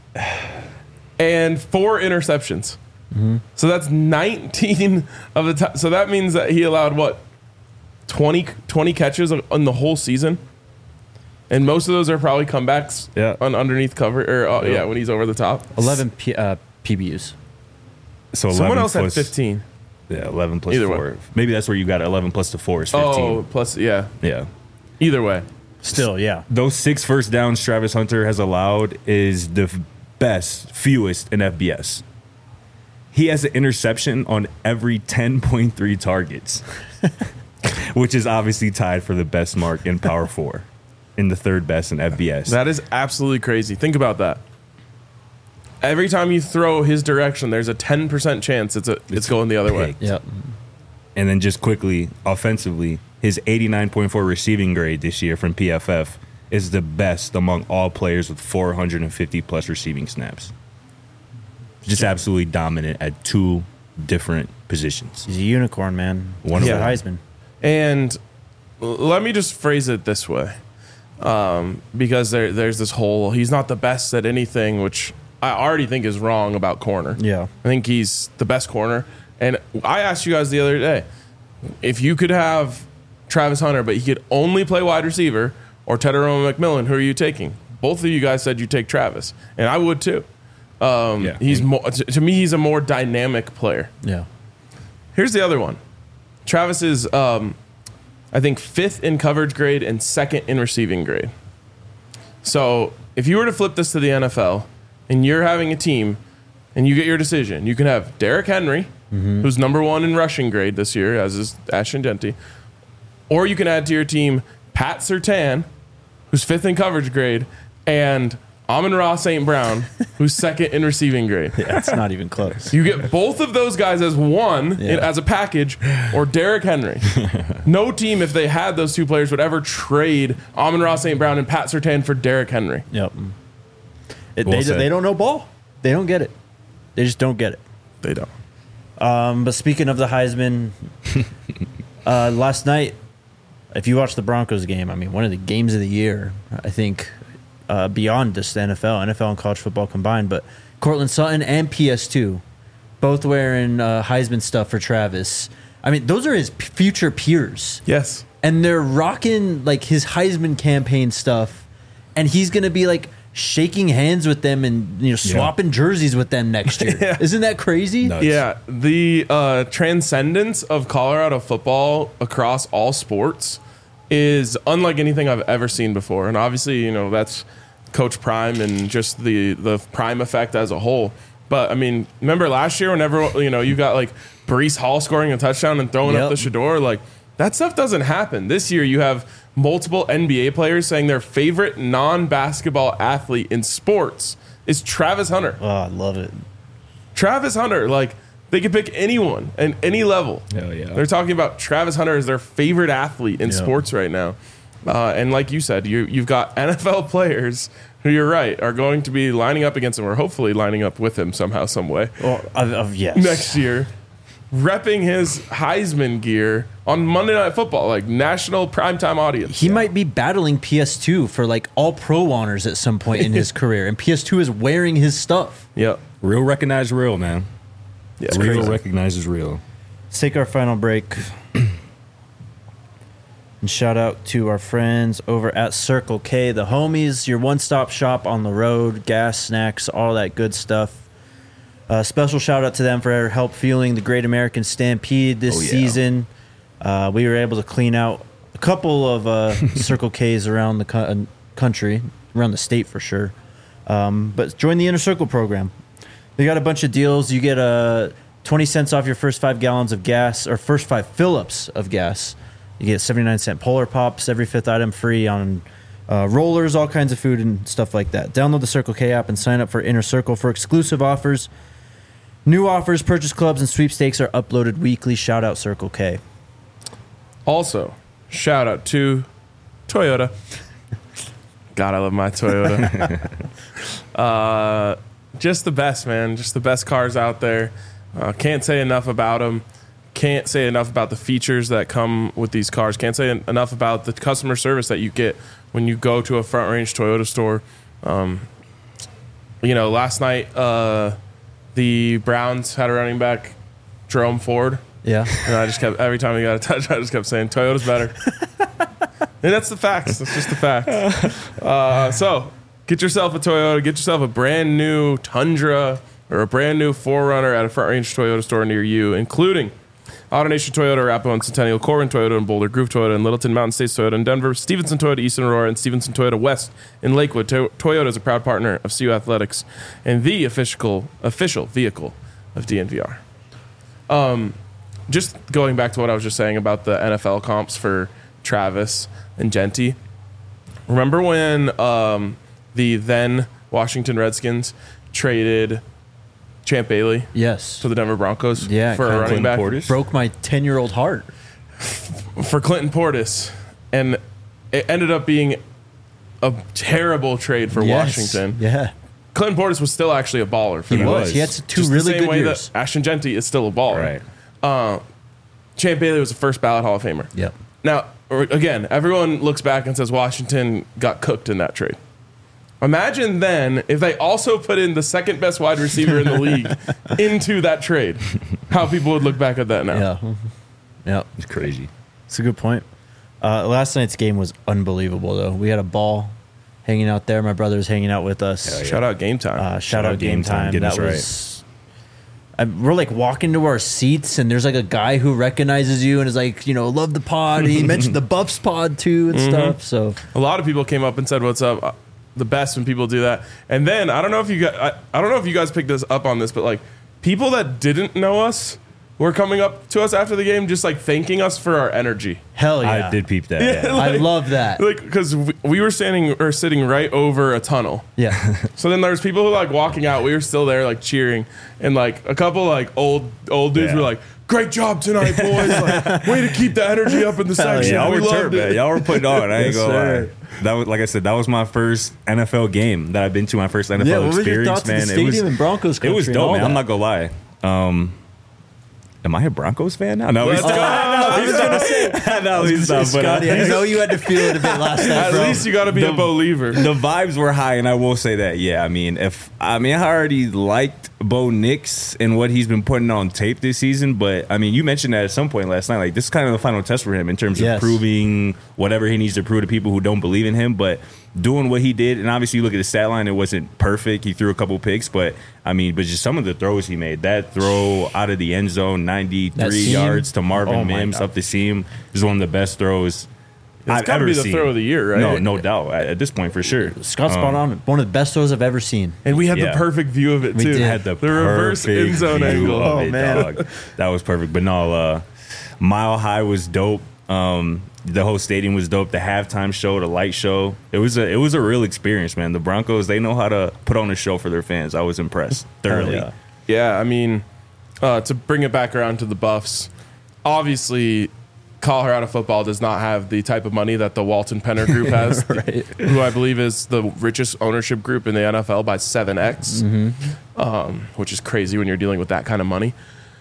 and four interceptions. Mm-hmm. So that's nineteen of the time. So that means that he allowed, what, twenty, twenty catches on the whole season? And most of those are probably comebacks Yeah. on underneath cover. Or uh, Yeah. yeah, when he's over the top. eleven P, uh, P B Us. So Someone eleven else plus, had fifteen. Yeah, eleven plus Either way. four. Maybe that's where you got eleven plus the four is fifteen. Oh, plus, yeah. Yeah. Either way. Still, yeah. Those six first downs Travis Hunter has allowed is the f- best, fewest in F B S. He has an interception on every ten point three targets, which is obviously tied for the best mark in Power Four, in the third best in F B S. That is absolutely crazy. Think about that. Every time you throw his direction, there's a ten percent chance it's a, it's going the other way. picked. Yep. And then just quickly, offensively, his eighty-nine point four receiving grade this year from P F F is the best among all players with four hundred fifty plus receiving snaps. Just absolutely dominant at two different positions. He's a unicorn, man. One He's of a them. Heisman. And l- let me just phrase it this way. Um, because there, there's this whole, he's not the best at anything, which I already think is wrong about corner. Yeah. I think he's the best corner. And I asked you guys the other day, if you could have Travis Hunter, but he could only play wide receiver, or Tedderone McMillan, who are you taking? Both of you guys said you take Travis, and I would too. Um, Yeah. He's more, to, to me, he's a more dynamic player. Yeah. Here's the other one. Travis is, um, I think, fifth in coverage grade and second in receiving grade. So if you were to flip this to the N F L and you're having a team and you get your decision, you can have Derrick Henry, who's number one in rushing grade this year, as is Ashton Genty, or you can add to your team Pat Surtain, who's fifth in coverage grade, and Amon-Ra Saint Brown, who's second in receiving grade. Yeah, it's not even close. You get both of those guys as one, Yeah. in, as a package, or Derrick Henry. No team, if they had those two players, would ever trade Amon-Ra Saint Brown and Pat Surtain for Derrick Henry. Yep. It, Well they, said. they don't know ball. They don't get it. They just don't get it. They don't. Um, but speaking of the Heisman, uh, last night, if you watched the Broncos game, I mean, one of the games of the year, I think, uh, beyond just the N F L, N F L and college football combined, but Cortland Sutton and P S two, both wearing uh, Heisman stuff for Travis. I mean, those are his p- future peers. Yes. And they're rocking like his Heisman campaign stuff, and he's gonna be like shaking hands with them and you know swapping jerseys with them next year. Yeah. Isn't that crazy? Nuts. Yeah, the uh, transcendence of Colorado football across all sports is unlike anything I've ever seen before. And obviously, you know, that's Coach Prime and just the the Prime effect as a whole. But I mean, remember last year whenever you know you got like Breece Hall scoring a touchdown and throwing Yep. up the Shador, like that stuff doesn't happen. This year you have multiple N B A players saying their favorite non-basketball athlete in sports is Travis Hunter. Oh, I love it. Travis Hunter, like they could pick anyone at any level. Hell yeah. They're talking about Travis Hunter as their favorite athlete in Yeah. sports right now. Uh, and like you said, you, you've got N F L players who you're right are going to be lining up against him, or hopefully lining up with him somehow, some way Well, of, of, yes. next year, repping his Heisman gear on Monday Night Football, like national primetime audience. He might be battling P S two for like all pro honors at some point in his career, and P S two is wearing his stuff. Yep. Real recognize real, man. Yeah, Real crazy. recognizes real. Let's take our final break. And shout out to our friends over at Circle K, the homies, your one-stop shop on the road, gas, snacks, all that good stuff. Uh, special shout out to them for help fueling the Great American Stampede this Oh, yeah. season. Uh, we were able to clean out a couple of uh, Circle Ks around the co- uh, country, around the state for sure. Um, but join the Inner Circle program. They got a bunch of deals. You get a twenty cents off your first five gallons of gas or first five fill-ups of gas. You get seventy-nine cent Polar Pops, every fifth item free on uh, rollers, all kinds of food and stuff like that. Download the Circle K app and sign up for Inner Circle for exclusive offers. New offers, purchase clubs, and sweepstakes are uploaded weekly. Shout out Circle K. Also, shout out to Toyota. God, I love my Toyota. uh, just the best, man. Just the best cars out there. Uh, can't say enough about them. Can't say enough about the features that come with these cars. Can't say en- enough about the customer service that you get when you go to a Front Range Toyota store. Um, you know, last night uh, the Browns had a running back, Jerome Ford. Yeah. And I just kept, every time we got a touch, I just kept saying, Toyota's better. And that's the facts. That's just the facts. Uh, so get yourself a Toyota. Get yourself a brand new Tundra or a brand new four runner at a Front Range Toyota store near you, including AutoNation Toyota, Arapahoe and Centennial, Corbin Toyota and Boulder, Groove Toyota and Littleton, Mountain States Toyota in Denver, Stevenson Toyota, Eastern Aurora, and Stevenson Toyota West in Lakewood. To- Toyota is a proud partner of C U Athletics and the official official vehicle of D N V R. Um, just going back to what I was just saying about the N F L comps for Travis and Genty. Remember when um, the then Washington Redskins traded Champ Bailey Yes. to the Denver Broncos Yeah, for a Clinton running back? Portis? Broke my ten-year-old heart. For Clinton Portis. And it ended up being a terrible trade for Yes. Washington. Yeah. Clinton Portis was still actually a baller for He them. was. was. He had two Just really the same good way years. that Ashton Genty is still a baller. Right. Champ Bailey was the first ballot Hall of Famer. Yep. Now, or- again, everyone looks back and says Washington got cooked in that trade. Imagine then if they also put in the second best wide receiver in the league into that trade, how people would look back at that now. Yeah. Yep. It's crazy. It's a good point. Uh, last night's game was unbelievable, though. We had a ball hanging out there. My brother was hanging out with us. Hell yeah. Shout out Game Time. Uh, shout, out Game Time. Getting That us right. was. I, we're like walking to our seats, and there's like a guy who recognizes you and is like, you know, love the pod. He mentioned the Buffs pod too and stuff. So A lot of people came up and said, "What's up?" Uh, The best when people do that. And then I don't know if you guys, I, I don't know if you guys picked this up on this, but like people that didn't know us were coming up to us after the game, just like thanking us for our energy. hell yeah, I did peep that. Yeah. Yeah. I like- love that. Like because we, we were standing or sitting right over a tunnel. Yeah, So then there's people who like walking out. We were still there like cheering, and like a couple like old old dudes Yeah. were like, "Great job tonight, boys! Like, way to keep the energy up in the section. Y'all we were loved turned, it." man. Y'all were putting on. I ain't Yes, gonna sir. lie. That was like I said. That was my first N F L game that I've been to. My first N F L yeah. What was your experience, thoughts of man. the it stadium was and Broncos it country was and dope, all man. I'm that? not gonna lie. Um, am I a Broncos fan now? No, he's Let's go. no, he's not. No, he's not. But Scotty, I uh, know you had to feel it a bit last night, At bro. least you got to be a The- believer. the vibes were high, and I will say that. Yeah, I mean, if I mean, I already liked Bo Nix and what he's been putting on tape this season, but I mean, you mentioned that at some point last night. Like, this is kind of the final test for him in terms Yes. of proving whatever he needs to prove to people who don't believe in him. But doing what he did, and obviously you look at the stat line, it wasn't perfect. He threw a couple picks, but I mean, but just some of the throws he made. That throw out of the end zone, That ninety-three seam? yards to Marvin Oh, my Mims God. up the seam, is one of the best throws I've gotta ever be the seen. throw of the year, right? No, no doubt. At at this point, for sure. Scott's spot on. One of the best throws I've ever seen. And we had Yeah. the perfect view of it We too. did. Had the, reverse perfect end zone view angle. of Oh, it, man. dog. That was perfect. But no, uh, Mile High was dope. Um, the whole stadium was dope. The halftime show, the light show. It was a it was a real experience, man. The Broncos, they know how to put on a show for their fans. I was impressed thoroughly. yeah. Yeah, I mean, uh, to bring it back around to the Buffs, obviously, Colorado football does not have the type of money that the Walton Penner Group has, Right. who I believe is the richest ownership group in the N F L by seven x, um, which is crazy when you're dealing with that kind of money.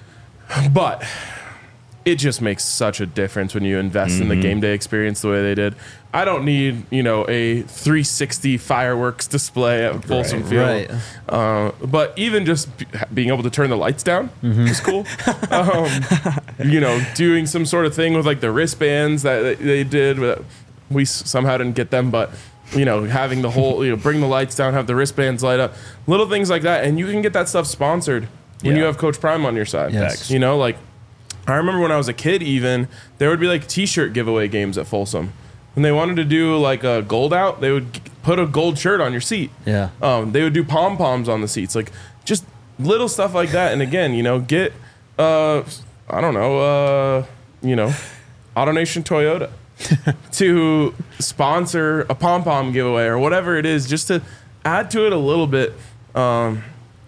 But it just makes such a difference when you invest in the game day experience the way they did. I don't need, you know, a three sixty fireworks display at Folsom Field. Right. Uh, but even just b- being able to turn the lights down is cool. um, you know, doing some sort of thing with like the wristbands that they- they did. With, we s- somehow didn't get them, but you know, having the whole, you know, bring the lights down, have the wristbands light up, little things like that, and you can get that stuff sponsored when Yeah. you have Coach Prime on your side. Yes. You know, like I remember when I was a kid, even there would be like T-shirt giveaway games at Folsom. When they wanted to do like a gold out, they would g- put a gold shirt on your seat. Yeah. Um, they would do pom poms on the seats, like just little stuff like that. And again, you know, get Uh, I don't know. Uh, you know, AutoNation Toyota to sponsor a pom pom giveaway or whatever it is, just to add to it a little bit. Um,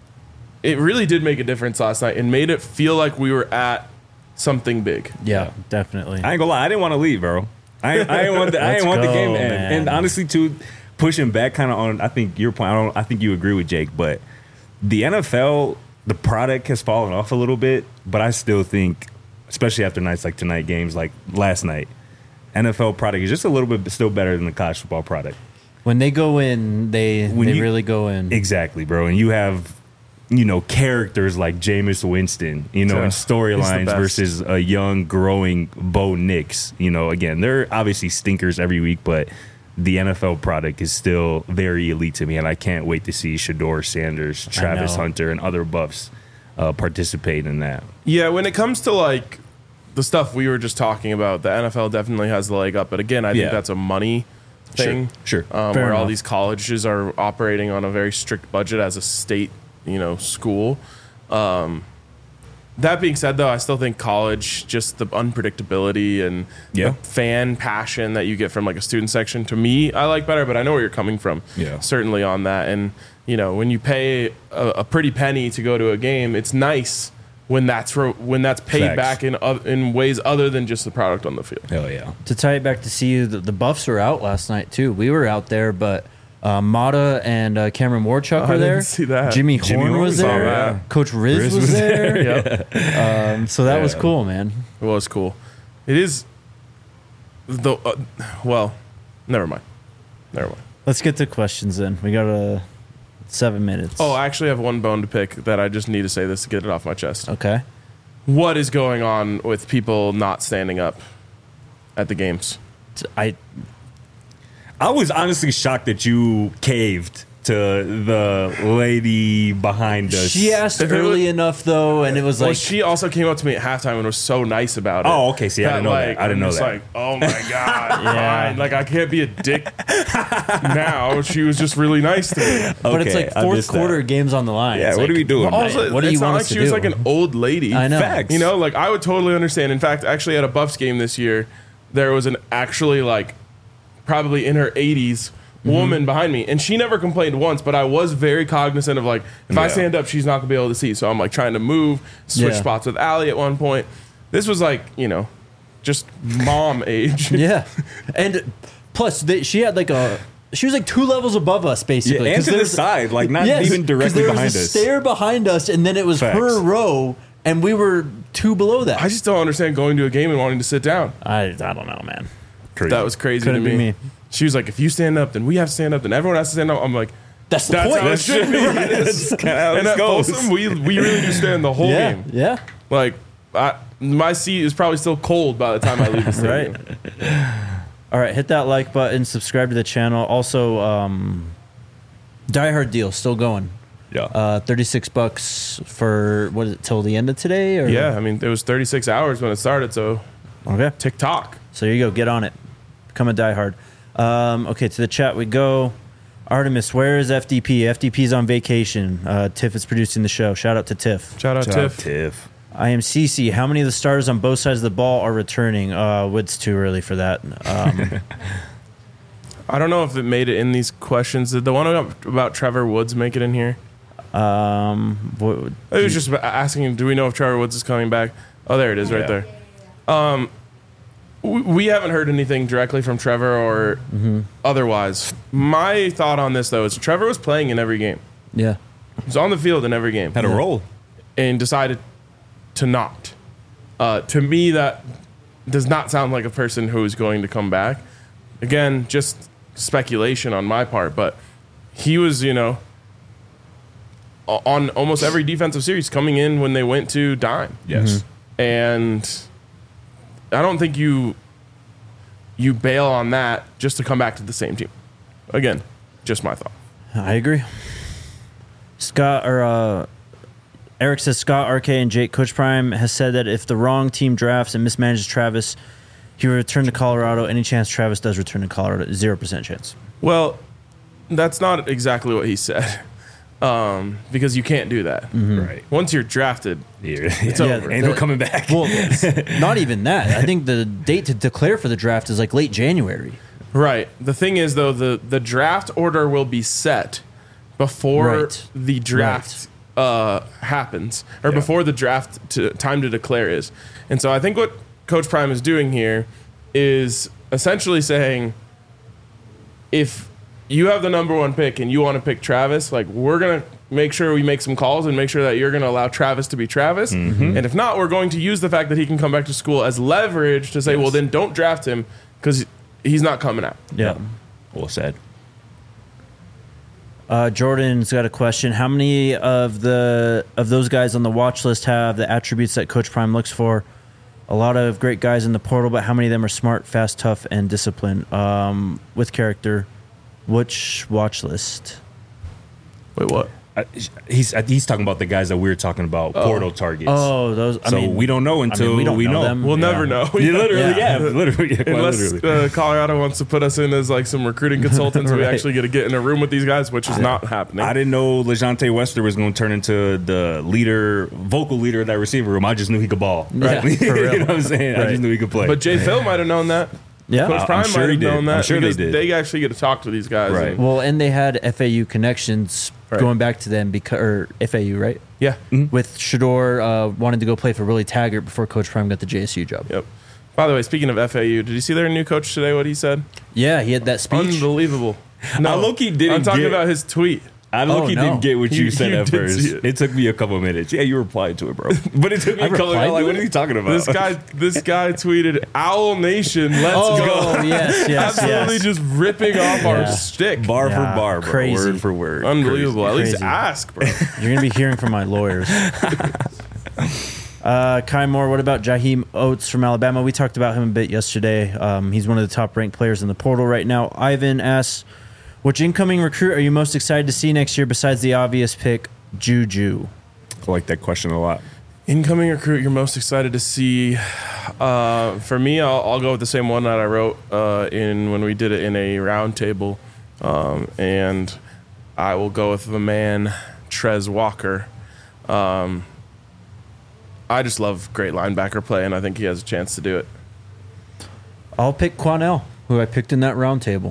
it really did make a difference last night and made it feel like we were at something big. Yeah, definitely. I ain't gonna lie, I didn't want to leave, bro. I, I didn't want the, I Let's didn't want the go, game to end. man. And honestly, too, pushing back kind of on, I think your point. I don't. I think you agree with Jake, but the N F L, the product has fallen off a little bit. But I still think, especially after nights like tonight, games like last night, N F L product is just a little bit still better than the college football product. When they go in, they When they you- really go in. Exactly, bro. And you have, you know, characters like Jameis Winston, you know, Yeah, and he's the storylines best. versus a young, growing Bo Nix. You know, again, they're obviously stinkers every week, but the N F L product is still very elite to me, and I can't wait to see Shador Sanders, Travis know. Hunter, and other buffs uh, participate in that. Yeah, when it comes to like the stuff we were just talking about, the N F L definitely has the leg up. But again, I think Yeah. that's a money thing. Sure, sure. Um, Fair where all enough. these colleges are operating on a very strict budget as a state, you know, school. Um, that being said, though, I still think college, just the unpredictability and Yeah. the fan passion that you get from like a student section, to me, I like better. But I know where you're coming from. Yeah. Certainly on that. And you know, when you pay a, a pretty penny to go to a game, it's nice when that's ro- when that's paid Facts. back in oth- in ways other than just the product on the field. Hell yeah. To tie it back to C U, the, the Buffs were out last night too. We were out there, but uh, Mata and uh, Cameron Warchuck Oh, I were there. didn't see that. Jimmy, Jimmy Horn Horn was saw there. that. Coach Riz, Riz was, was there. Yep. Um, so that was Yeah. cool, man. It was cool. It is the uh, well, never mind. Never mind. Let's get to questions then. We got uh, seven minutes. Oh, I actually have one bone to pick that I just need to say this to get it off my chest. okay. What is going on with people not standing up at the games? T- I I was honestly shocked that you caved to the lady behind us. she asked If it early was- enough though, and it was Well, like she also came up to me at halftime and was so nice about it. Oh, okay. See, I didn't know that. I didn't I'm know just that. Like, oh my god, Yeah. fine. Like I can't be a dick now. She was just really nice to me. but it's Okay, like I fourth missed that. quarter games on the line. Yeah, It's what like, are we doing? Well, Also, what do it's you not want like us to she was do? like an old lady. I know. Facts. You know, like I would totally understand. In fact, actually at a Buffs game this year, there was an actually like probably in her eighties Mm-hmm. woman behind me, and she never complained once. But I was very cognizant of like, if I Yeah. stand up, she's not gonna be able to see. So I'm like trying to move, switch Yeah. spots with Allie at one point. This was like, you know, just mom age. Yeah, and plus they, she had like a. She was like two levels above us, basically. Yeah, and 'cause to the there's- side, like not Yes, even 'cause directly there behind was a us. stair behind us, and then it was Facts. her row, and we were two below that. I just don't understand going to a game and wanting to sit down. I, I don't know, man. Crazy. That was crazy Couldn't to be me. me. She was like, if you stand up, then we have to stand up, then everyone has to stand up. I'm like, That's the that's point. how it should be. That's kinda how And this at goes. Folsom, we we really do stand the whole yeah, game. yeah. Like, I, my seat is probably still cold by the time I leave the stadium. All right, hit that like button, subscribe to the channel. Also, um, Die Hard deal still going. Yeah. Uh, thirty-six bucks for what is it till the end of today? Or Yeah, I mean, it was thirty-six hours when it started, so Okay. TikTok. So here you go. Get on it. Become a diehard. Um, okay, to the chat we go. Artemis, where is F D P? F D P's on vacation. Uh, Tiff is producing the show. Shout out to Tiff. Shout out Shout out Tiff. Tiff. I am C C. How many of the starters on both sides of the ball are returning? Uh, it's too early for that. Um, I don't know if it made it in these questions. Did the one about, about Trevor Woods make it in here? um, what, It was just about asking, do we know if Trevor Woods is coming back? Oh, there it is right Yeah. there. Um, we, we haven't heard anything directly from Trevor or otherwise. My thought on this, though, is Trevor was playing in every game. yeah. He was on the field in every game. Had a roll. And decided to not. Uh, to me, that does not sound like a person who is going to come back. Again, just speculation on my part, but he was, you know, o- on almost every defensive series coming in when they went to dime. Yes. And I don't think you you bail on that just to come back to the same team. Again, just my thought. I agree. Scott or uh, Eric says Scott, R K, and Jake Coach Prime has said that if the wrong team drafts and mismanages Travis, he will return to Colorado. Any chance Travis does return to Colorado? Zero percent chance. Well, that's not exactly what he said. um, because you can't do that. Right. Once you're drafted, Yeah. it's Yeah, over. Ain't no coming back. Well, not even that. I think the date to declare for the draft is like late January. Right. The thing is, though, the, the draft order will be set before Right. the draft uh, happens, or Yeah. before the draft to, time to declare is. And so I think what Coach Prime is doing here is essentially saying, if you have the number one pick and you want to pick Travis, like, we're going to make sure we make some calls and make sure that you're going to allow Travis to be Travis. Mm-hmm. And if not, we're going to use the fact that he can come back to school as leverage to say, Yes. well, then don't draft him because he's not coming out. Yeah. Well said. Uh, Jordan's got a question. How many of the of those guys on the watch list have the attributes that Coach Prime looks for? A lot of great guys in the portal, but how many of them are smart, fast, tough, and disciplined um, with character? Which watch list? Wait, what? I, he's he's talking about the guys that we were talking about, portal targets. Oh, those. I so mean, we don't know until I mean, we don't know know. them. We'll Yeah. never know. Yeah, literally, Yeah. yeah, literally, yeah, quite Unless literally. uh, Colorado wants to put us in as like some recruiting consultants, we Right. actually get to get in a room with these guys, which is not happening. I didn't know LeJontay Wester was going to turn into the leader, vocal leader of that receiver room. I just knew he could ball. Yeah, Right? for real. You know what I'm saying? I Right. just knew he could play. But Jay Phil might have known that. Yeah. Coach I'm Prime sure might he have did. known that I'm sure they because did. they actually get to talk to these guys. Right. and- Well, and they had F A U connections Right. going back to them because or F A U, right? yeah. With Shador uh, wanting to go play for Willie Taggart before Coach Prime got the J S U job. Yep. By the way, speaking of F A U, did you see their new coach today? What he said? Yeah, he had that speech. Unbelievable. No, I low-key didn't I'm talking get- about his tweet. I look, he no. didn't get what you, You- said you at did first. see It. it. took me a couple minutes. Yeah, you replied to it, bro. But it took me I a couple replied minutes. Like, to what it? are you talking about? This guy, this guy tweeted, "Owl Nation, let's Oh, go!" yes, yes, Absolutely, yes. just ripping off our Yeah. stick. bar Yeah, for bar, bro. crazy. Word for word. Unbelievable. At least Crazy. ask, bro. You're going to be hearing from my lawyers. uh, Kai Moore, what about Jaheim Oates from Alabama? We talked about him a bit yesterday. Um, he's one of the top-ranked players in the portal right now. Ivan asks, which incoming recruit are you most excited to see next year besides the obvious pick, Juju? I like that question a lot. Incoming recruit you're most excited to see? Uh, for me, I'll, I'll go with the same one that I wrote uh, in when we did it in a roundtable, um, and I will go with the man Trez Walker. Um, I just love great linebacker play, and I think he has a chance to do it. I'll pick Quanell, who I picked in that roundtable.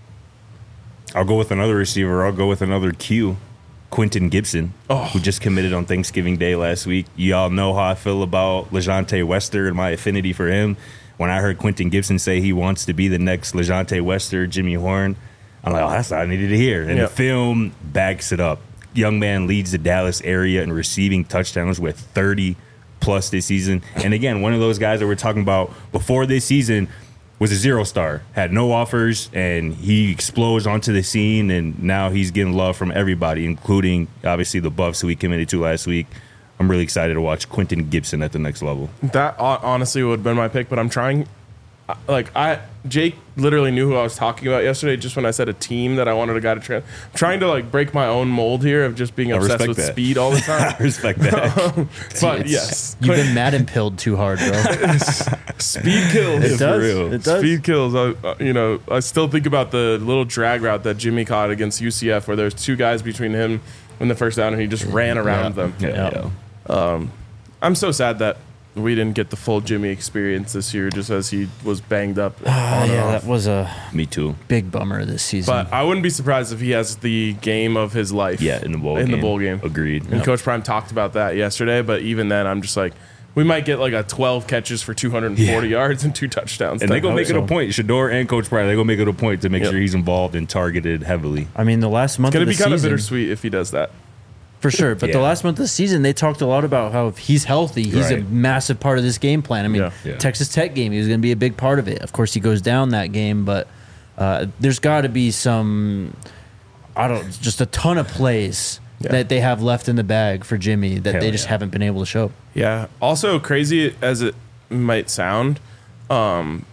I'll go with another receiver. I'll go with another Q, Quentin Gibson, Oh. who just committed on Thanksgiving Day last week. Y'all know how I feel about LeJontay Wester and my affinity for him. When I heard Quentin Gibson say he wants to be the next LeJontay Wester, Jimmy Horn, I'm like, oh, that's what I needed to hear. And Yep. the film backs it up. Young man leads the Dallas area in receiving touchdowns with thirty plus this season. And again, one of those guys that we're talking about before this season was a zero star, had no offers, and he explodes onto the scene, and now he's getting love from everybody, including obviously the Buffs who he committed to last week. I'm really excited to watch Quentin Gibson at the next level. That hon- honestly would have been my pick, but I'm trying. I- Like I, Jake literally knew who I was talking about yesterday. Just when I said a team that I wanted a guy to trans, I'm trying to like break my own mold here of just being I obsessed respect with that. speed all the I time. respect that. but It's- yes, You've been Madden pilled too hard, bro. speed kills. It does. real. It does. Speed kills. I, uh, you know, I still think about the little drag route that Jimmy caught against U C F, where there's two guys between him and the first down, and he just ran around Yeah. them. Yeah, Yeah. yeah. I'm so sad that we didn't get the full Jimmy experience this year, just as he was banged up. Oh, on and yeah, off. that was a Me too. big bummer this season. But I wouldn't be surprised if he has the game of his life. Yeah, in the bowl in game. the bowl game. Agreed. And Coach Prime talked about that yesterday. But even then, I'm just like, we might get like a twelve catches for two hundred forty Yeah. yards and two touchdowns. And they gonna I make it hope a so. point. Shador and Coach Pryor, they gonna make it a point to make Yep. sure he's involved and targeted heavily. I mean, the last month It's gonna of the be kind of season, bittersweet if he does that. for sure. But the Yeah. last month of the season, they talked a lot about how if he's healthy, he's a Right. massive part of this game plan. I mean, Yeah. Yeah. Texas Tech game, he was going to be a big part of it. Of course, he goes down that game, but uh, there's got to be some, I don't, just a ton of plays Yeah. that they have left in the bag for Jimmy that Hell they just yeah. haven't been able to show. Yeah. Also, crazy as it might sound, um,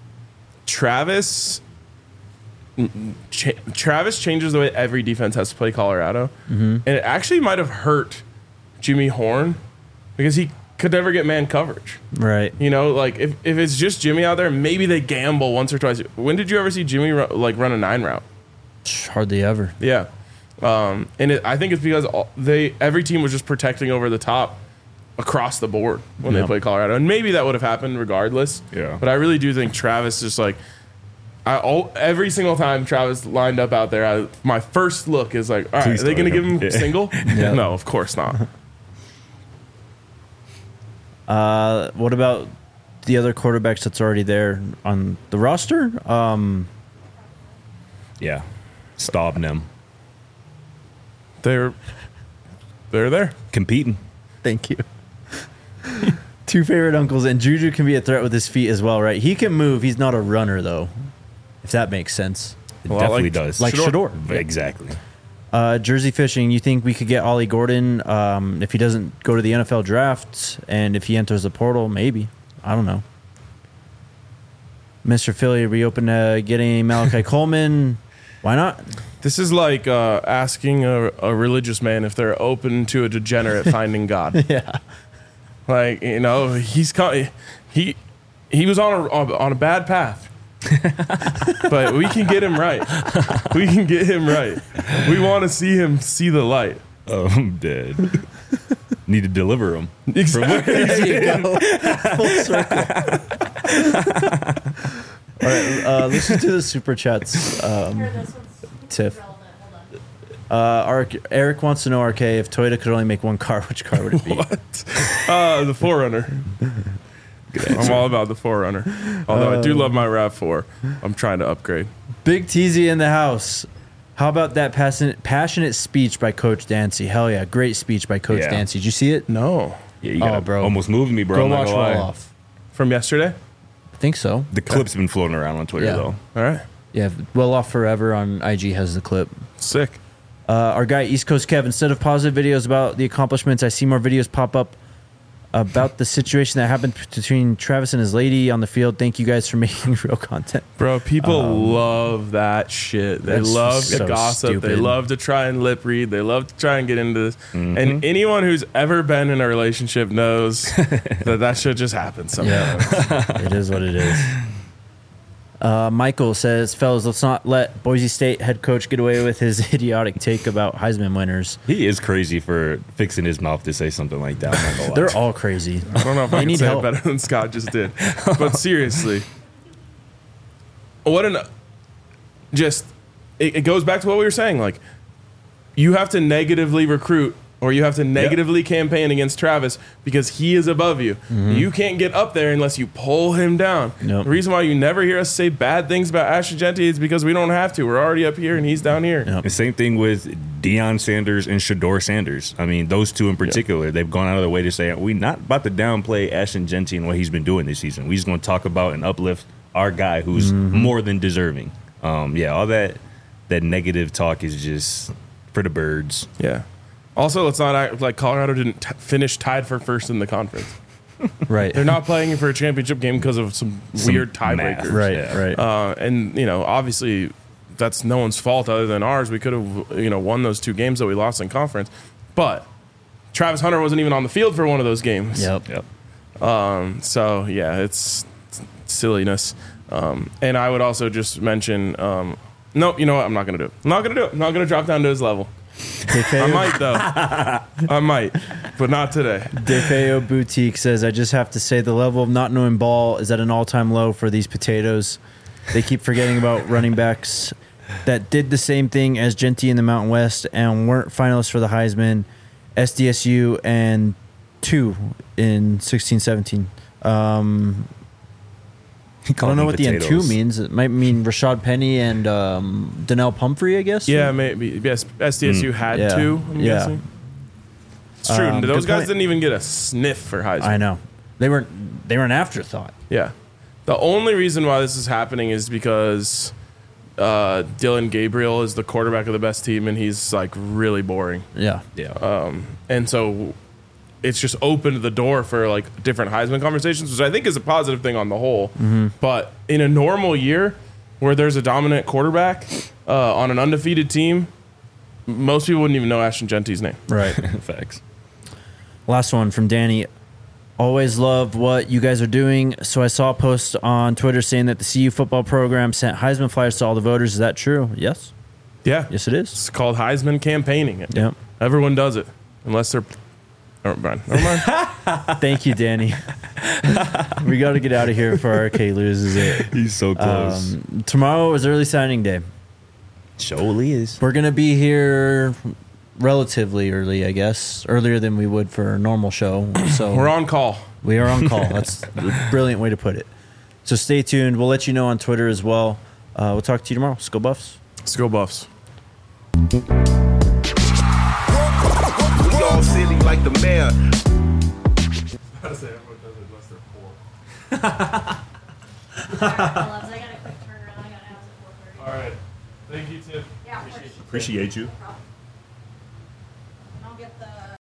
Travis. Ch- Travis changes the way every defense has to play Colorado, Mm-hmm. and it actually might have hurt Jimmy Horn because he could never get man coverage. Right. You know, like if, if it's just Jimmy out there, maybe they gamble once or twice. When did you ever see Jimmy ru- like run a nine route? Hardly ever. Yeah. Um, and it, I think it's because all, they every team was just protecting over the top across the board when Yeah. they played Colorado. And maybe that would have happened regardless. Yeah. But I really do think Travis just like, I all, every single time Travis lined up out there, I, my first look is like, all right, Please are they going to start give him him. Yeah. single? Yeah. No, of course not. Uh, what about the other quarterbacks that's already there on the roster? Um, Yeah. Stopping them. They're they're there. Competing. thank you. Two favorite uncles, and Juju can be a threat with his feet as well, right? He can move. He's not a runner, though, if that makes sense. It Well, definitely like- does. Like Shador. Shador. Exactly. Uh, Jersey Fishing, you think we could get Ollie Gordon um, if he doesn't go to the N F L draft and if he enters the portal? Maybe. I don't know. Mister Philly, are we open to getting Malachi Coleman? Why not? This is like uh, asking a, a religious man if they're open to a degenerate finding God. Yeah. Like, you know, he's co- he he was on a on a bad path, but we can get him right. We can get him right. We want to see him see the light. Oh, I'm dead. Need to deliver them. Exactly. There you go. Full circle. All right, uh, let's just do the super chats. Um, Here, this one's Tiff. relevant. Hold on. uh, Ar- Eric wants to know, R K, if Toyota could only make one car, which car would it be? Uh, the Forerunner. I'm all about the Forerunner. Although I do love my RAV four. I'm trying to upgrade. Big Teasy in the house. How about that passionate, passionate speech by Coach Dancy? Hell yeah, great speech by Coach Yeah. Dancy. Did you see it? No. Yeah, you Oh, gotta bro. almost moved me, bro. Go I'm not watch gonna lie. Roll Off. From yesterday? I think so. The clip's been floating around on Twitter, Yeah. though. All right. Yeah, Well Off Forever on I G has the clip. Sick. Uh, our guy East Coast Kev, instead of positive videos about the accomplishments, I see more videos pop up about the situation that happened between Travis and his lady on the field. Thank you guys for making real content. Bro, people love that shit. They that's love to so gossip. They stupid. love to try and lip read. They love to try and get into this. And anyone who's ever been in a relationship knows that that shit just happens sometimes. Yeah, it is what it is. Uh, Michael says, fellas, let's not let Boise State head coach get away with his idiotic take about Heisman winners. He is crazy for fixing his mouth to say something like that. I'm not gonna lie. They're all crazy. I don't know if I can need say help. it better than Scott just did. But seriously, what an just it, it goes back to what we were saying. Like, you have to negatively recruit or you have to negatively campaign against Travis because he is above you. You can't get up there unless you pull him down. Nope. The reason why you never hear us say bad things about Ashton Genty is because we don't have to. We're already up here and he's down here. Yep. The same thing with Deion Sanders and Shador Sanders. I mean, those two in particular, they've gone out of their way to say, we're not about to downplay Ashton Genty and what he's been doing this season. We're just going to talk about and uplift our guy who's more than deserving. Um, yeah, all that that negative talk is just for the birds. Yeah. Also, let's not act like Colorado didn't t- finish tied for first in the conference. Right. They're not playing for a championship game because of some, Some weird math. tiebreakers. Right, Yeah. right. Uh, and, you know, obviously that's no one's fault other than ours. We could have, you know, won those two games that we lost in conference. But Travis Hunter wasn't even on the field for one of those games. Yep. Yep. Um, so, yeah, it's silliness. Um, and I would also just mention, um, nope, you know what? I'm not going to do it. I'm not going to do it. I'm not going to drop down to his level. I might, though. I might, but not today. DeFeo Boutique says, I just have to say the level of not knowing ball is at an all-time low for these potatoes. They keep forgetting about running backs that did the same thing as Genty in the Mountain West and weren't finalists for the Heisman, S D S U, and two in sixteen seventeen. Um, I don't know what the and two means. It might mean Rashad Penny and um, Donnell Pumphrey, I guess. Yeah, maybe. Yes, S D S U had Yeah. two, I'm Yeah. guessing. It's true. Um, Those good guys point. didn't even get a sniff for Heisman. I know. They weren't. They were an afterthought. Yeah. The only reason why this is happening is because uh, Dylan Gabriel is the quarterback of the best team, and he's like really boring. Yeah. Yeah. And so it's just opened the door for like different Heisman conversations, which I think is a positive thing on the whole. But in a normal year where there's a dominant quarterback uh, on an undefeated team, most people wouldn't even know Ashton Genty's name. Right. Facts. Last one from Danny. Always love what you guys are doing. So I saw a post on Twitter saying that the C U football program sent Heisman flyers to all the voters. Is that true? Yes. Yeah. Yes, it is. It's called Heisman campaigning. Yep. Everyone does it, unless they're. Never mind. Never mind. Thank you, Danny. We got to get out of here before R K loses it. He's so close. Um, tomorrow is early signing day. Surely is. We're gonna be here relatively early, I guess, earlier than we would for a normal show. So We're on call. We are on call. That's a brilliant way to put it. So stay tuned. We'll let you know on Twitter as well. Uh, we'll talk to you tomorrow. Let's go Buffs. Let's go Buffs. We all silly like the mayor. How to say everyone does it unless they're poor. Sorry, I got a quick turnaround. I got out at four thirty. All right. Thank you, Tim. Yeah, of course. Appreciate you. No problem.